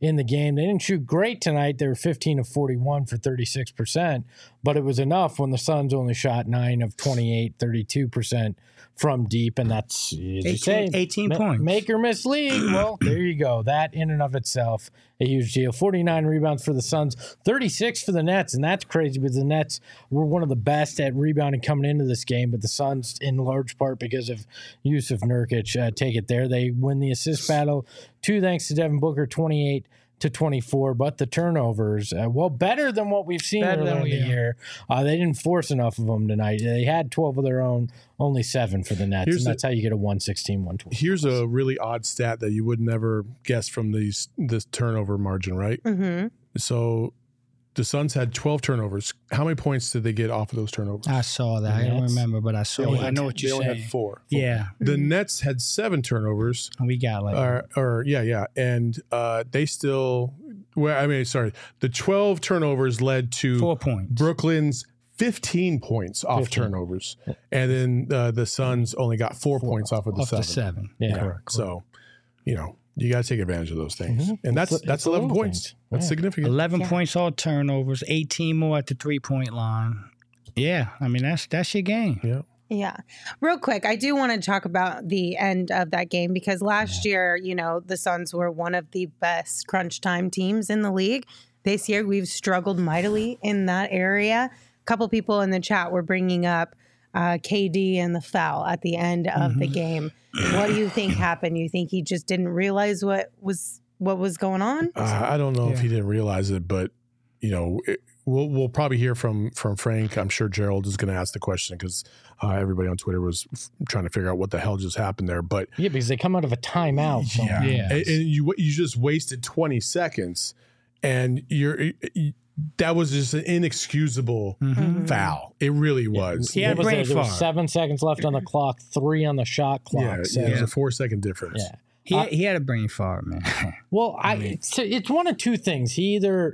in the game. They didn't shoot great tonight. They were fifteen of forty-one for thirty-six percent, but it was enough when the Suns only shot nine of twenty-eight, thirty-two percent from deep, and that's, as you say, eighteen, eighteen ma- points. Make or miss league. Well, there you go. That in and of itself, a huge deal. forty-nine rebounds for the Suns, thirty-six for the Nets, and that's crazy because the Nets were one of the best at rebounding coming into this game, but the Suns, in large part because of Yusuf Nurkic, uh, take it there. They win the assist battle, two thanks to Devin Booker, twenty-eight to twenty-four, but the turnovers, uh, well, better than what we've seen Better earlier than in we- the year. Uh, they didn't force enough of them tonight. They had twelve of their own, only seven for the Nets, Here's and the- that's how you get a one sixteen, one twenty. Here's a really odd stat that you would never guess from these this turnover margin, right? Mm-hmm. So the Suns had twelve turnovers. How many points did they get off of those turnovers? I saw that. I don't Nets. remember, but I They saw only it. I had- know what they you're only saying. had four. four. Yeah, The Nets had seven turnovers. we got like Or, or yeah, yeah, and uh, they still. Well, I mean, sorry, the twelve turnovers led to four points. Brooklyn's fifteen points off fifteen. turnovers, and then uh, the Suns only got four, points off of the off seven. the seven. Yeah. Correct. So, you know, you got to take advantage of those things, Mhm. and that's It's- that's it's the eleven little points. things. That's Yeah. significant. eleven Yeah. points, all turnovers, eighteen more at the three point line. Yeah, I mean that's that's your game. Yeah. Yeah. Real quick, I do want to talk about the end of that game because last year, you know, the Suns were one of the best crunch time teams in the league. This year, we've struggled mightily in that area. A couple people in the chat were bringing up uh, K D and the foul at the end of the game. What do you think happened? You think he just didn't realize what was what was going on? Uh, I don't know if Yeah. he didn't realize it, but you know, it, we'll we'll probably hear from from Frank. I'm sure Gerald is going to ask the question because uh, everybody on Twitter was f- trying to figure out what the hell just happened there. But Yeah, because they come out of a timeout. from- yeah, Yeah. And, and you you just wasted twenty seconds, and you're you, that was just an inexcusable Mhm. foul. It really was. Yeah, What was brain there? There was fart. seven seconds left on the clock, three on the shot clock. Yeah, so- yeah, it was a four second difference. yeah. He Uh, he had a brain fart, man. Well, I, it's, it's one of two things. He either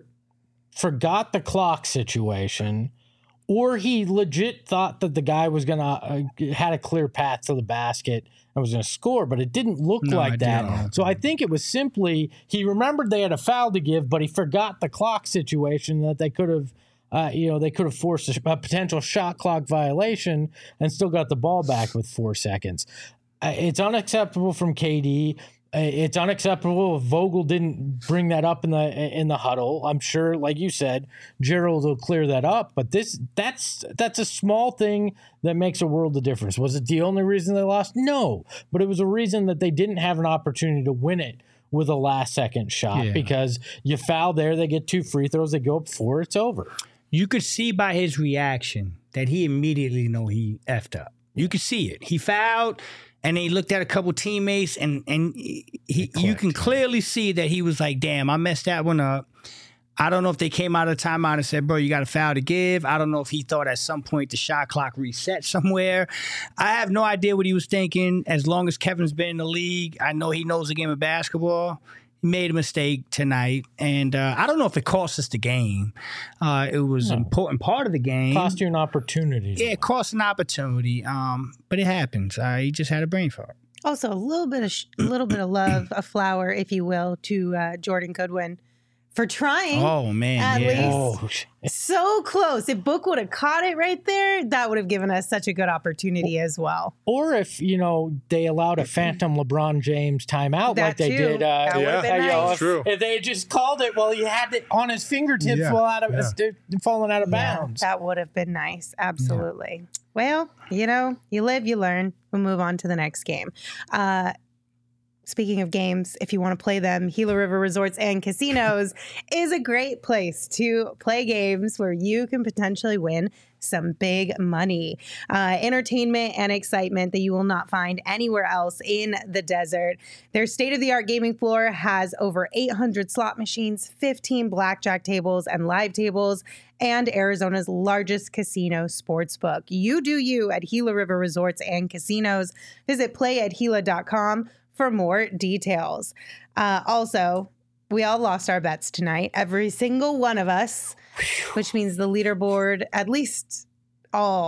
forgot the clock situation, or he legit thought that the guy was gonna uh, had a clear path to the basket and was gonna score, but it didn't look No, I like that. didn't. So I think it was simply he remembered they had a foul to give, but he forgot the clock situation that they could have. Uh, you know, they could have forced a, a potential shot clock violation and still got the ball back with four seconds. Uh, it's unacceptable from K D. Uh, It's unacceptable if Vogel didn't bring that up in the in the huddle. I'm sure, like you said, Gerald will clear that up. But this that's that's a small thing that makes a world of difference. Was it the only reason they lost? No, but it was a reason that they didn't have an opportunity to win it with a last second shot Yeah. because you foul there, they get two free throws, they go up four, it's over. You could see by his reaction that he immediately know he effed up. You could see it. He fouled, and then he looked at a couple teammates, and and he, you can clearly see that he was like, "Damn, I messed that one up." I don't know if they came out of the timeout and said, "Bro, you got a foul to give." I don't know if he thought at some point the shot clock reset somewhere. I have no idea what he was thinking. As long as Kevin's been in the league, I know he knows the game of basketball. He made a mistake tonight, and uh, I don't know if it cost us the game. Uh, it was an important part of the game. Cost you an opportunity. Yeah, it cost an opportunity, um, but it happens. Uh, he just had a brain fart. Also, a little bit of sh- a little bit of love, a flower, if you will, to uh, Jordan Goodwin for trying. Oh man, At yeah. least- Oh, sh- So close. If Book would have caught it right there, that would have given us such a good opportunity as well. or if, you know, they allowed a phantom LeBron James timeout That like they too. did. Uh, That would have yeah, been you know, nice. if, True. if they had just called it while he had it on his fingertips Yeah, while out of, yeah. it's falling out of Yeah, bounds. that would have been nice. Absolutely. Well, you know, you live, you learn. We'll move on to the next game. Uh, Speaking of games, if you want to play them, Gila River Resorts and Casinos is a great place to play games where you can potentially win some big money, uh, entertainment and excitement that you will not find anywhere else in the desert. Their state-of-the-art gaming floor has over eight hundred slot machines, fifteen blackjack tables and live tables, and Arizona's largest casino sportsbook. You do you at Gila River Resorts and Casinos. Visit play at gila dot com for more details. Uh, also, we all lost our bets tonight, every single one of us, which means the leaderboard, at least all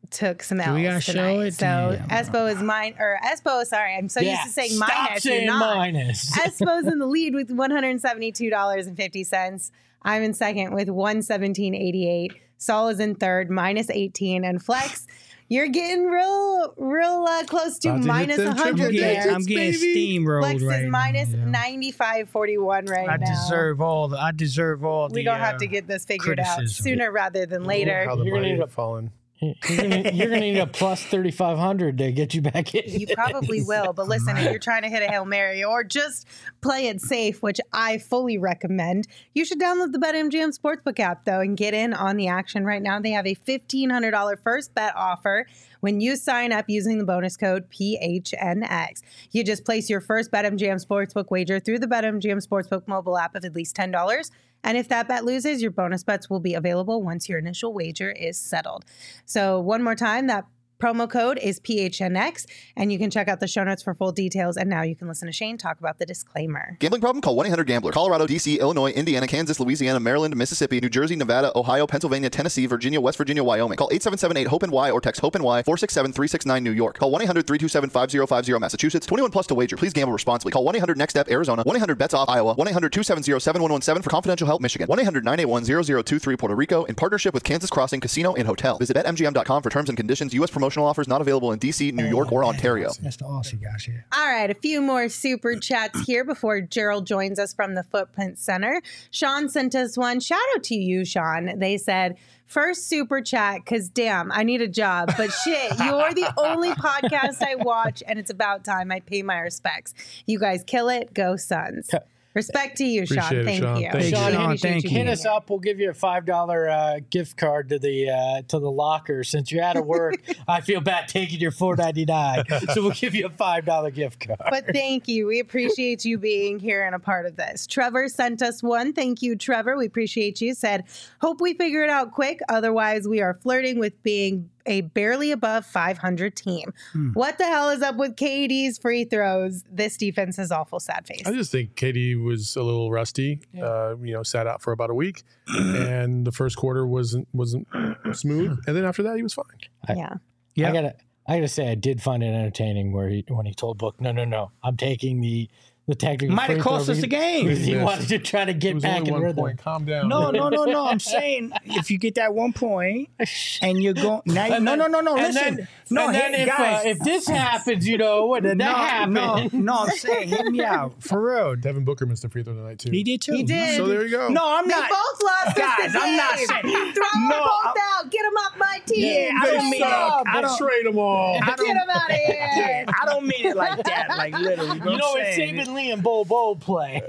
took some Do we gotta L's show tonight. it? So Damn. Espo is mine, or Espo, sorry, I'm so Yeah, used to saying stop minus. saying You're not. minus. Espo's in the lead with one hundred seventy-two dollars and fifty cents. I'm in second with one hundred seventeen dollars and eighty-eight cents. Saul is in third, minus eighteen. And Flex, you're getting real, real uh, close to About to hit minus them one triple hundred I'm digits, getting, there. I'm getting baby. steamrolled Flex right is minus now. yeah. ninety-five forty-one right I now. deserve all the. I deserve all the. We don't have uh, to get this figured out criticism. sooner rather than later. How the You're gonna mighty need have a- fallen. You're gonna, you're gonna need a plus thirty-five hundred to get you back in. You probably will, but listen, if you're trying to hit a Hail Mary or just play it safe, which I fully recommend, you should download the BetMGM Sportsbook app, though, and get in on the action right now. They have a fifteen hundred dollars first bet offer when you sign up using the bonus code P H N X. You just place your first BetMGM Sportsbook wager through the BetMGM Sportsbook mobile app of at least ten dollars. And if that bet loses, your bonus bets will be available once your initial wager is settled. So one more time, that promo code is P H N X, and you can check out the show notes for full details. And now you can listen to Shane talk about the disclaimer. Gambling problem? Call one eight hundred gambler. Colorado, D C, Illinois, Indiana, Kansas, Louisiana, Maryland, Mississippi, New Jersey, Nevada, Ohio, Pennsylvania, Tennessee, Virginia, West Virginia, Wyoming. Call eight seven seven eight hope N Y or text hope N Y four six seven three six nine New York. Call one eight hundred three two seven five zero five zero Massachusetts. twenty-one plus to wager. Please gamble responsibly. Call one eight hundred next step Arizona. one eight hundred bets off Iowa. one eight hundred two seven zero seven one one seven for confidential help Michigan. one eight hundred nine eight one zero zero two three Puerto Rico in partnership with Kansas Crossing Casino and Hotel. Visit bet M G M dot com for terms and conditions. U S promotional offers not available in D C, New York, or Ontario. That's the Aussie guys here. All right, a few more super chats here before Gerald joins us from the Footprint Center. Sean sent us one. Shout out to you, Sean. They said, first super chat, because damn, I need a job. But shit, you're the only podcast I watch, and it's about time I pay my respects. You guys kill it. Go Suns. Respect to you, Sean. Appreciate it, Thank Sean. you. Thank you. Sean, We Sean, appreciate thank you you. being Hit us here. up. We'll give you a five dollar uh, gift card to the uh, to the locker. Since you're out of work, I feel bad taking your four ninety nine. So we'll give you a five dollar gift card. But thank you. We appreciate you being here and a part of this. Trevor sent us one. Thank you, Trevor. We appreciate you. Said, hope we figure it out quick. Otherwise, we are flirting with being a barely above five hundred team. Hmm. What the hell is up with K D's free throws? This defense is awful sad face. I just think K D was a little rusty. Yeah. Uh, you know, sat out for about a week, and the first quarter wasn't wasn't smooth, and then after that he was fine. yeah. Yeah. I gotta I gotta say I did find it entertaining where he when he told Book, no, no, no, I'm taking the the technical. Might have free throw cost us the because game. He Yes. wanted to try to It get was back only in one rhythm. point. Calm down. No, no, no, no. I'm saying if you get that one point and you're going, now, And no, no, then- no, no. and Listen, then- no, and then hey, if, guys. uh, if this happens, you know, what did that no, happen? no, no. I'm saying, hear me out for real. Devin Booker missed a free throw tonight too. He did too. He did. So there you go. No, I'm They not. both lost Guys, us the I'm not game. saying- Throw them No, both I- out. Get them off my team. Yeah, I don't mean Suck. I don't- Trade them all. I Get don't, them out of here. I don't mean it like that, like literally. You know, what if I'm saying? Saban Lee and Bo Bo play.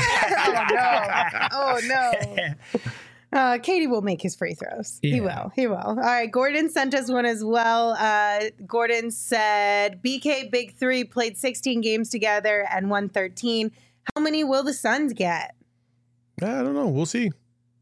oh no! Oh no! Uh, Katie will make his free throws. He Yeah. will. He will. All right. Gordon sent us one as well. Uh, Gordon said B K Big Three played sixteen games together and won thirteen. How many will the Suns get? I don't know. We'll see.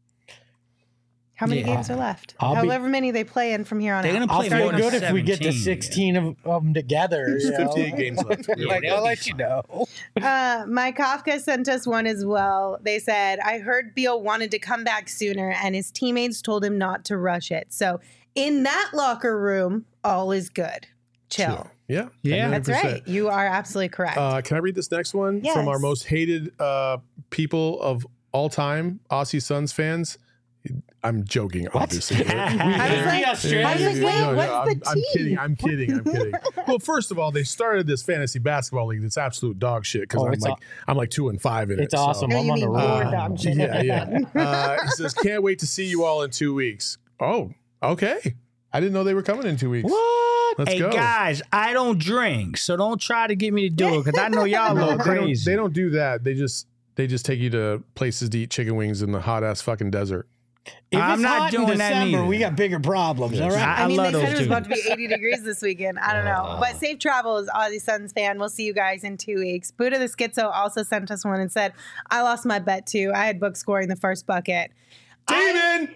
How many Yeah. games are left? I'll be- However many they play in from here on They're out. gonna I'll play feel more than good if we get to seventeen, sixteen of, of them together. There's you know? fifty-eight games left. Yeah, Like, they'll I'll be let you know. Uh, Mike Kafka sent us one as well. They said, I heard Beal wanted to come back sooner and his teammates told him not to rush it. So in that locker room, all is good. Chill. Yeah. Yeah. That's one hundred percent. right. You are absolutely correct. Uh, can I read this next one from our Yes. most hated uh, people of all time, Aussie Suns fans? I'm joking, obviously. I was Be like, Australian. I was like, wait, No, no, what's I'm, the I'm team? kidding. I'm kidding. I'm kidding. Well, first of all, they started this fantasy basketball league that's absolute dog shit because Oh, I'm it's like aw- I'm like two and five in it. It's so- awesome. Oh, I'm you on the mean road. your dog shit. Yeah, yeah. Uh, he says, "Can't wait to see you all in two weeks." Oh, okay. I didn't know they were coming in two weeks. What? Let's hey go. guys, I don't drink, so don't try to get me to do it because I know y'all No, look they don't, crazy. they don't do that. They just they just take you to places to eat chicken wings in the hot ass fucking desert. If I'm it's not hot doing in that December, neither. we got bigger problems. All right. I I mean, love they said those it was two. about to be eighty degrees this weekend. I don't know. But safe travels, Aussie Suns fan. We'll see you guys in two weeks. Buddha the Schizo also sent us one and said, I lost my bet too. I had Book scoring the first bucket. David!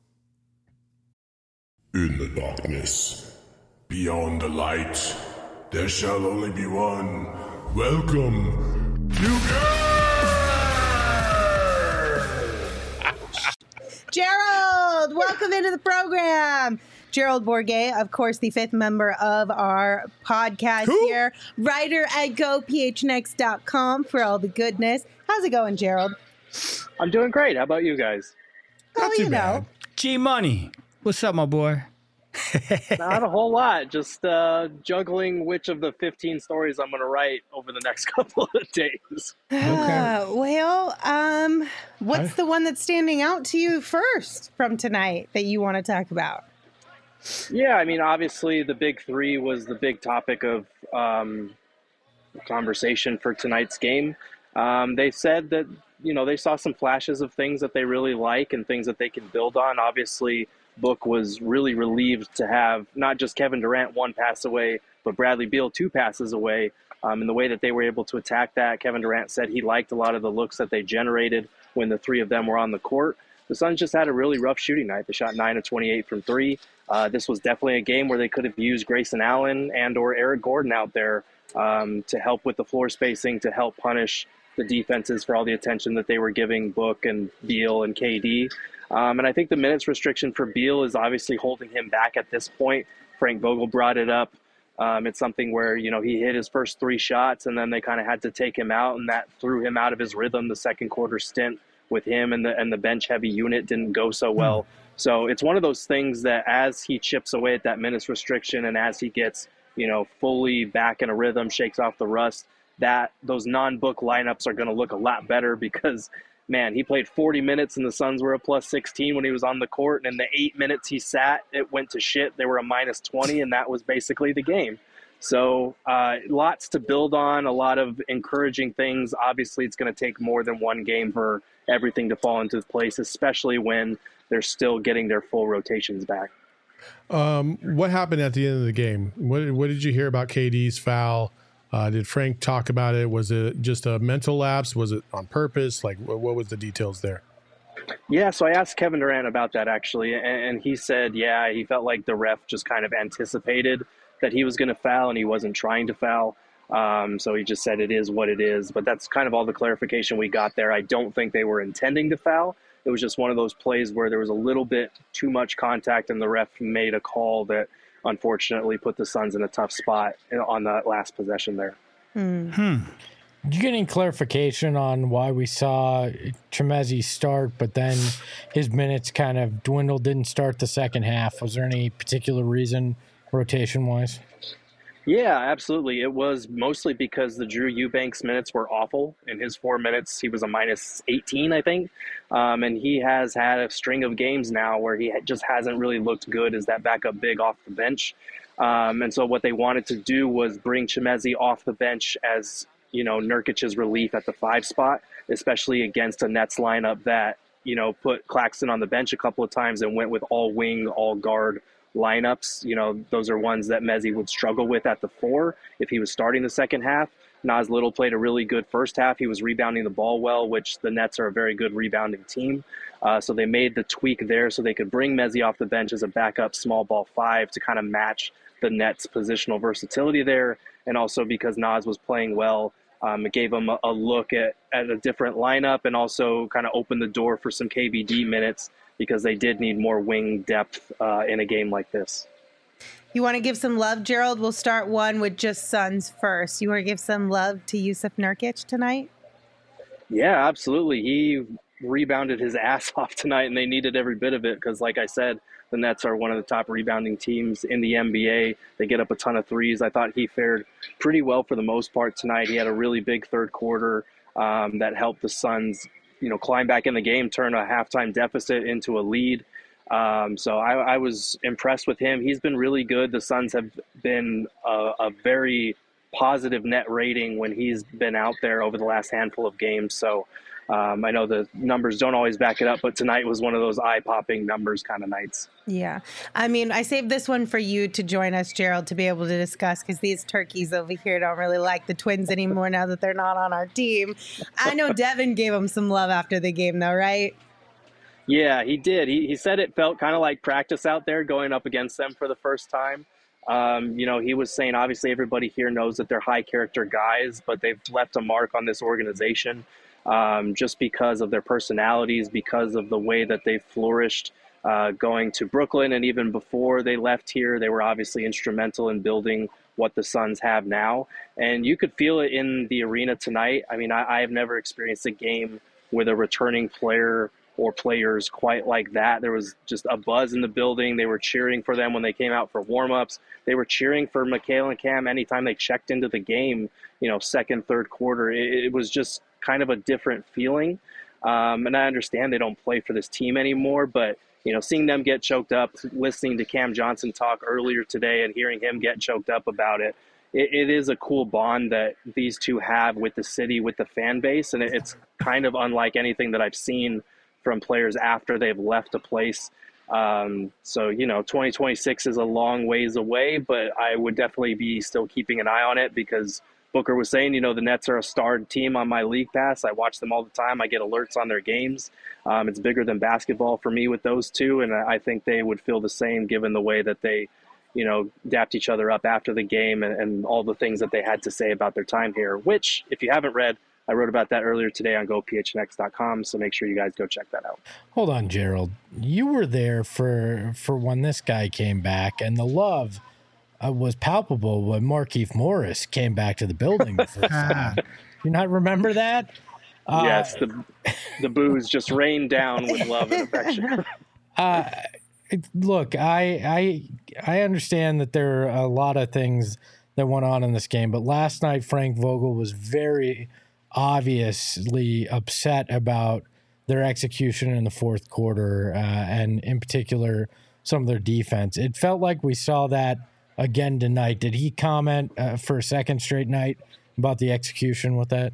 In the darkness, beyond the light, there shall only be one. Welcome to Gerald, Gerald. Welcome into the program. Gerald Bourguet, of course, the fifth member of our podcast Who? here. Writer at go p h n x dot com for all the goodness. How's it going, Gerald? I'm doing great. How about you guys? Not oh, too you bad. know. G Money. What's up, my boy? Not a whole lot. Just uh, juggling which of the fifteen stories I'm going to write over the next couple of days. Uh, well, um, what's I- the one that's standing out to you first from tonight that you want to talk about? Yeah, I mean, obviously the big three was the big topic of um, conversation for tonight's game. Um, they said that, you know, they saw some flashes of things that they really like and things that they can build on. Obviously, Book was really relieved to have not just Kevin Durant one pass away, but Bradley Beal two passes away. Um, and the way that they were able to attack that, Kevin Durant said he liked a lot of the looks that they generated when the three of them were on the court. The Suns just had a really rough shooting night. They shot nine of twenty-eight from three. Uh, this was definitely a game where they could have used Grayson Allen and or Eric Gordon out there um, to help with the floor spacing, to help punish the defenses for all the attention that they were giving Book and Beal and K D. Um, and I think the minutes restriction for Beal is obviously holding him back at this point. Frank Vogel brought it up. Um, it's something where, you know, he hit his first three shots and then they kind of had to take him out, and that threw him out of his rhythm. The second quarter stint with him and the and the bench heavy unit didn't go so well. So it's one of those things that as he chips away at that minutes restriction and as he gets, you know, fully back in a rhythm, shakes off the rust, that those non-Book lineups are going to look a lot better because, man, he played forty minutes and the Suns were a plus sixteen when he was on the court. And in the eight minutes he sat, it went to shit. They were a minus twenty, and that was basically the game. So uh, lots to build on, a lot of encouraging things. Obviously, it's going to take more than one game for everything to fall into place, especially when they're still getting their full rotations back. Um, what happened at the end of the game? What, what did you hear about K D's foul? Uh, did Frank talk about it? Was it just a mental lapse? Was it on purpose? Like, what, what was the details there? Yeah, so I asked Kevin Durant about that, actually, and, and he said, yeah, he felt like the ref just kind of anticipated that he was going to foul, and he wasn't trying to foul. Um, so he just said it is what it is. But that's kind of all the clarification we got there. I don't think they were intending to foul. It was just one of those plays where there was a little bit too much contact, and the ref made a call that unfortunately put the Suns in a tough spot on that last possession there. Hmm. Hmm. Did you get any clarification on why we saw Chimezie start, but then his minutes kind of dwindled, didn't start the second half? Was there any particular reason rotation-wise? Yeah, absolutely. It was mostly because the Drew Eubanks minutes were awful. In his four minutes, he was a minus eighteen, I think. Um, and he has had a string of games now where he just hasn't really looked good as that backup big off the bench. Um, and so what they wanted to do was bring Chimezie off the bench as, you know, Nurkic's relief at the five spot, especially against a Nets lineup that, you know, put Claxton on the bench a couple of times and went with all wing, all guard lineups. You know, those are ones that Mezzi would struggle with at the four if he was starting the second half. Nas Little played a really good first half. He was rebounding the ball well, which the Nets are a very good rebounding team. Uh, so they made the tweak there so they could bring Mezzi off the bench as a backup small ball five to kind of match the Nets' positional versatility there. And also because Nas was playing well, um, it gave him a, a look at, at a different lineup and also kind of opened the door for some K B D minutes because they did need more wing depth uh, in a game like this. You want to give some love, Gerald? We'll start one with just Suns first. You want to give some love to Jusuf Nurkic tonight? Yeah, absolutely. He rebounded his ass off tonight, and they needed every bit of it because, like I said, the Nets are one of the top rebounding teams in the N B A. They get up a ton of threes. I thought he fared pretty well for the most part tonight. He had a really big third quarter um, that helped the Suns, you know, climb back in the game, turn a halftime deficit into a lead. Um, so I, I was impressed with him. He's been really good. The Suns have been a, a very positive net rating when he's been out there over the last handful of games. So um, I know the numbers don't always back it up, but tonight was one of those eye-popping numbers kind of nights. Yeah. I mean, I saved this one for you to join us, Gerald, to be able to discuss because these turkeys over here don't really like the Twins anymore now that they're not on our team. I know Devin gave them some love after the game, though, right? Yeah, he did. He he said it felt kind of like practice out there going up against them for the first time. Um, you know, he was saying, obviously, everybody here knows that they're high character guys, but they've left a mark on this organization um, just because of their personalities, because of the way that they've flourished uh, going to Brooklyn, and even before they left here, they were obviously instrumental in building what the Suns have now. And you could feel it in the arena tonight. I mean, I, I have never experienced a game with a returning player or players quite like that. There was just a buzz in the building. They were cheering for them when they came out for warmups. They were cheering for Mikal and Cam anytime they checked into the game, you know, second, third quarter. It, it was just kind of a different feeling. Um, and I understand they don't play for this team anymore, but you know, seeing them get choked up, listening to Cam Johnson talk earlier today and hearing him get choked up about it, it, it is a cool bond that these two have with the city, with the fan base. And it, it's kind of unlike anything that I've seen from players after they've left a place. Um, so, you know, twenty twenty-six is a long ways away, but I would definitely be still keeping an eye on it because Booker was saying, you know, the Nets are a starred team on my league pass. I watch them all the time. I get alerts on their games. Um, it's bigger than basketball for me with those two, and I think they would feel the same given the way that they, you know, dapped each other up after the game and, and all the things that they had to say about their time here, which, if you haven't read, I wrote about that earlier today on go p h n x dot com, so make sure you guys go check that out. Hold on, Gerald. You were there for, for when this guy came back, and the love uh, was palpable when Markieff Morris came back to the building the first time. You not remember that? Uh, yes, the the booze just rained down with love and affection. uh, it, look, I, I I understand that there are a lot of things that went on in this game, but last night Frank Vogel was very obviously upset about their execution in the fourth quarter, uh, and in particular some of their defense. It felt like we saw that again tonight. Did he comment uh, for a second straight night about the execution with that?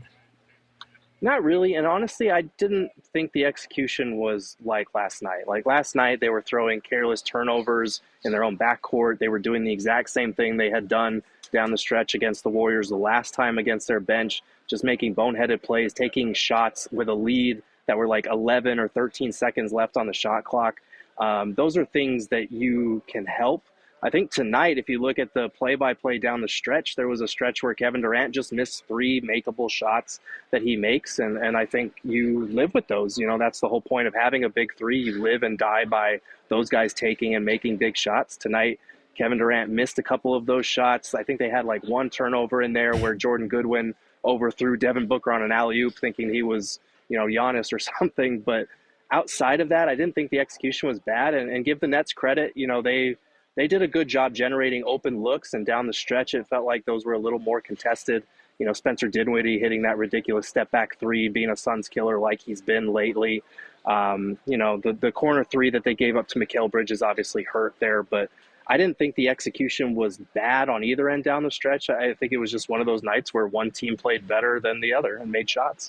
Not really. And honestly, I didn't think the execution was like last night. Like last night, they were throwing careless turnovers in their own backcourt. They were doing the exact same thing they had done down the stretch against the Warriors the last time against their bench, just making boneheaded plays, taking shots with a lead that were like eleven or thirteen seconds left on the shot clock. Um, those are things that you can help. I think tonight, if you look at the play-by-play down the stretch, there was a stretch where Kevin Durant just missed three makeable shots that he makes, and, and I think you live with those. You know, that's the whole point of having a big three. You live and die by those guys taking and making big shots. Tonight, Kevin Durant missed a couple of those shots. I think they had like one turnover in there where Jordan Goodwin overthrew Devin Booker on an alley-oop thinking he was, you know, Giannis or something. But outside of that, I didn't think the execution was bad. And, and give the Nets credit, you know, they – They did a good job generating open looks, and down the stretch, it felt like those were a little more contested. You know, Spencer Dinwiddie hitting that ridiculous step-back three, being a Suns killer like he's been lately. Um, you know, the, the corner three that they gave up to Mikal Bridges obviously hurt there, but I didn't think the execution was bad on either end down the stretch. I think it was just one of those nights where one team played better than the other and made shots.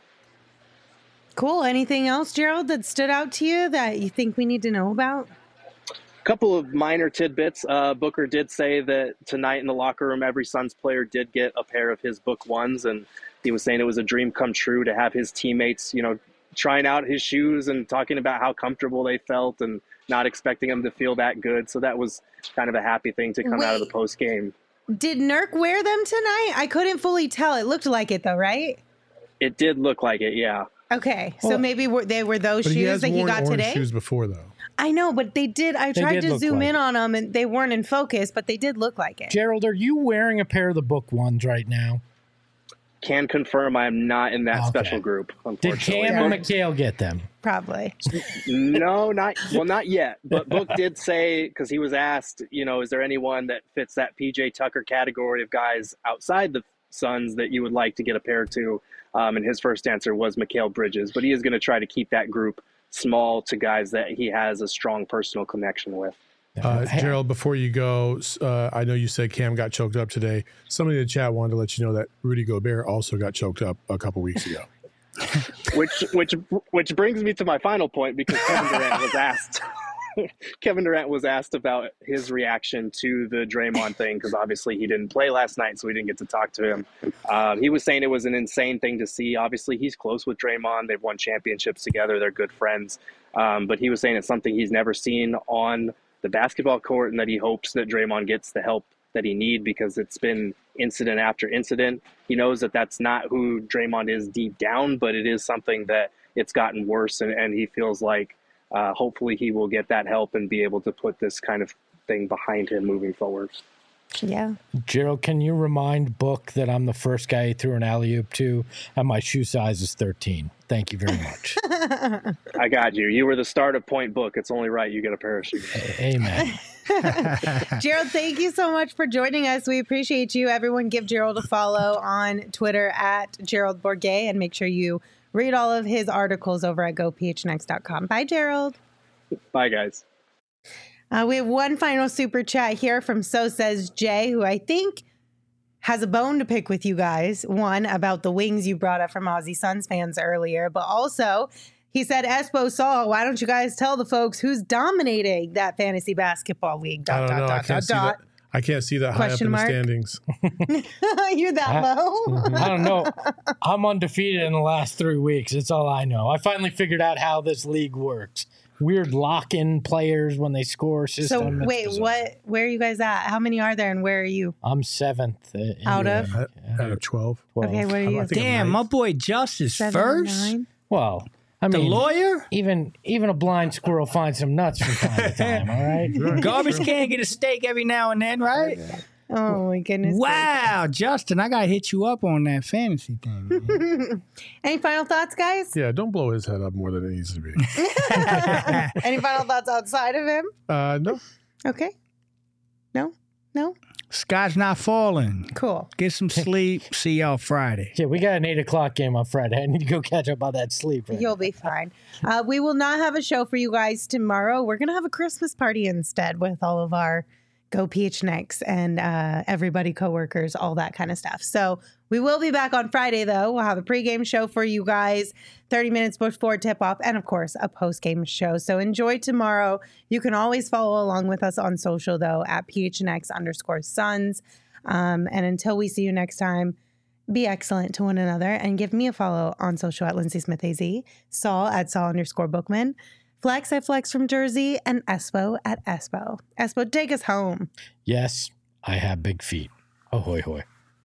Cool. Anything else, Gerald, that stood out to you that you think we need to know about? Couple of minor tidbits. Uh, Booker did say that tonight in the locker room, every Suns player did get a pair of his book ones, and he was saying it was a dream come true to have his teammates, you know, trying out his shoes and talking about how comfortable they felt and not expecting them to feel that good. So that was kind of a happy thing to come Wait, out of the post game. Did Nurk wear them tonight? I couldn't fully tell. It looked like it though, right? It did look like it, yeah. Okay, Well, so maybe were, they were those But he shoes has that he worn got orange today. shoes before, though. I know, but they did. I They tried did to look zoom like in it. on them, and they weren't in focus, but they did look like it. Gerald, are you wearing a pair of the book ones right now? Can confirm I am not in that Okay. special group, Did unfortunately. Cam and Mikal get them? Probably. No, not well, not yet. But Book did say, because he was asked, you know, is there anyone that fits that P J Tucker category of guys outside the Suns that you would like to get a pair to? Um, and his first answer was Mikal Bridges. But he is going to try to keep that group small to guys that he has a strong personal connection with. Uh, Gerald, before you go, uh, I know you said Cam got choked up today. Somebody in the chat wanted to let you know that Rudy Gobert also got choked up a couple weeks ago. which which which brings me to my final point, because Kevin Durant was asked Kevin Durant was asked about his reaction to the Draymond thing, because obviously he didn't play last night, so we didn't get to talk to him. Um, he was saying it was an insane thing to see. Obviously, he's close with Draymond. They've won championships together. They're good friends. Um, but he was saying it's something he's never seen on the basketball court, and that he hopes that Draymond gets the help that he needs, because it's been incident after incident. He knows that that's not who Draymond is deep down, but it is something that it's gotten worse, and, and he feels like uh, hopefully he will get that help and be able to put this kind of thing behind him moving forward. Yeah. Gerald, can you remind Book that I'm the first guy he threw an alley-oop to, and my shoe size is thirteen? Thank you very much. I got you. You were the start of Point Book. It's only right you get a parachute. Amen. Gerald, thank you so much for joining us. We appreciate you. Everyone give Gerald a follow on Twitter at Gerald Bourguet, and make sure you read all of his articles over at go p h n x dot com. Bye, Gerald. Bye, guys. Uh, we have one final super chat here from So Says Jay, who I think has a bone to pick with you guys. One, about the wings you brought up from Aussie Suns fans earlier, but also he said, Espo Saul, why don't you guys tell the folks who's dominating that fantasy basketball league? Dot, I don't dot, know. dot, I can't dot, see dot. that. I can't see that Question high up mark? in the standings. You're that I- low? I don't know. I'm undefeated in the last three weeks. That's all I know. I finally figured out how this league works. Weird lock-in players when they score So system. It's wait, bizarre. what? Where are you guys at? How many are there, and where are you? I'm seventh. uh, in Out the of? league. Out of twelve. twelve. Okay, what are you? I think I'm Damn, my ninth. boy Justice Seven, first. nine? Well, I The mean, lawyer? even even a blind squirrel finds some nuts from time to time. All right. Garbage can get a steak every now and then, right? Oh my goodness! Wow, Justin, I gotta hit you up on that fantasy thing. Man. Any final thoughts, guys? Yeah, don't blow his head up more than it needs to be. Any final thoughts outside of him? Uh, no. Okay. No. No. Sky's not falling. Cool. Get some sleep. See y'all Friday. Yeah, we got an eight o'clock game on Friday. I need to go catch up on that sleep. Right You'll be fine. Uh, we will not have a show for you guys tomorrow. We're going to have a Christmas party instead with all of our Go P H N X and uh, everybody, coworkers, all that kind of stuff. So we will be back on Friday, though. We'll have a pregame show for you guys, thirty minutes before tip-off, and, of course, a postgame show. So enjoy tomorrow. You can always follow along with us on social, though, at P H N X underscore Suns. Um, and until we see you next time, be excellent to one another and give me a follow on social at Lindsay Smith A Z, Saul at Saul underscore Bookman, Flex at Flex from Jersey, and Espo at Espo. Espo, take us home. Yes, I have big feet. Ahoy, hoy.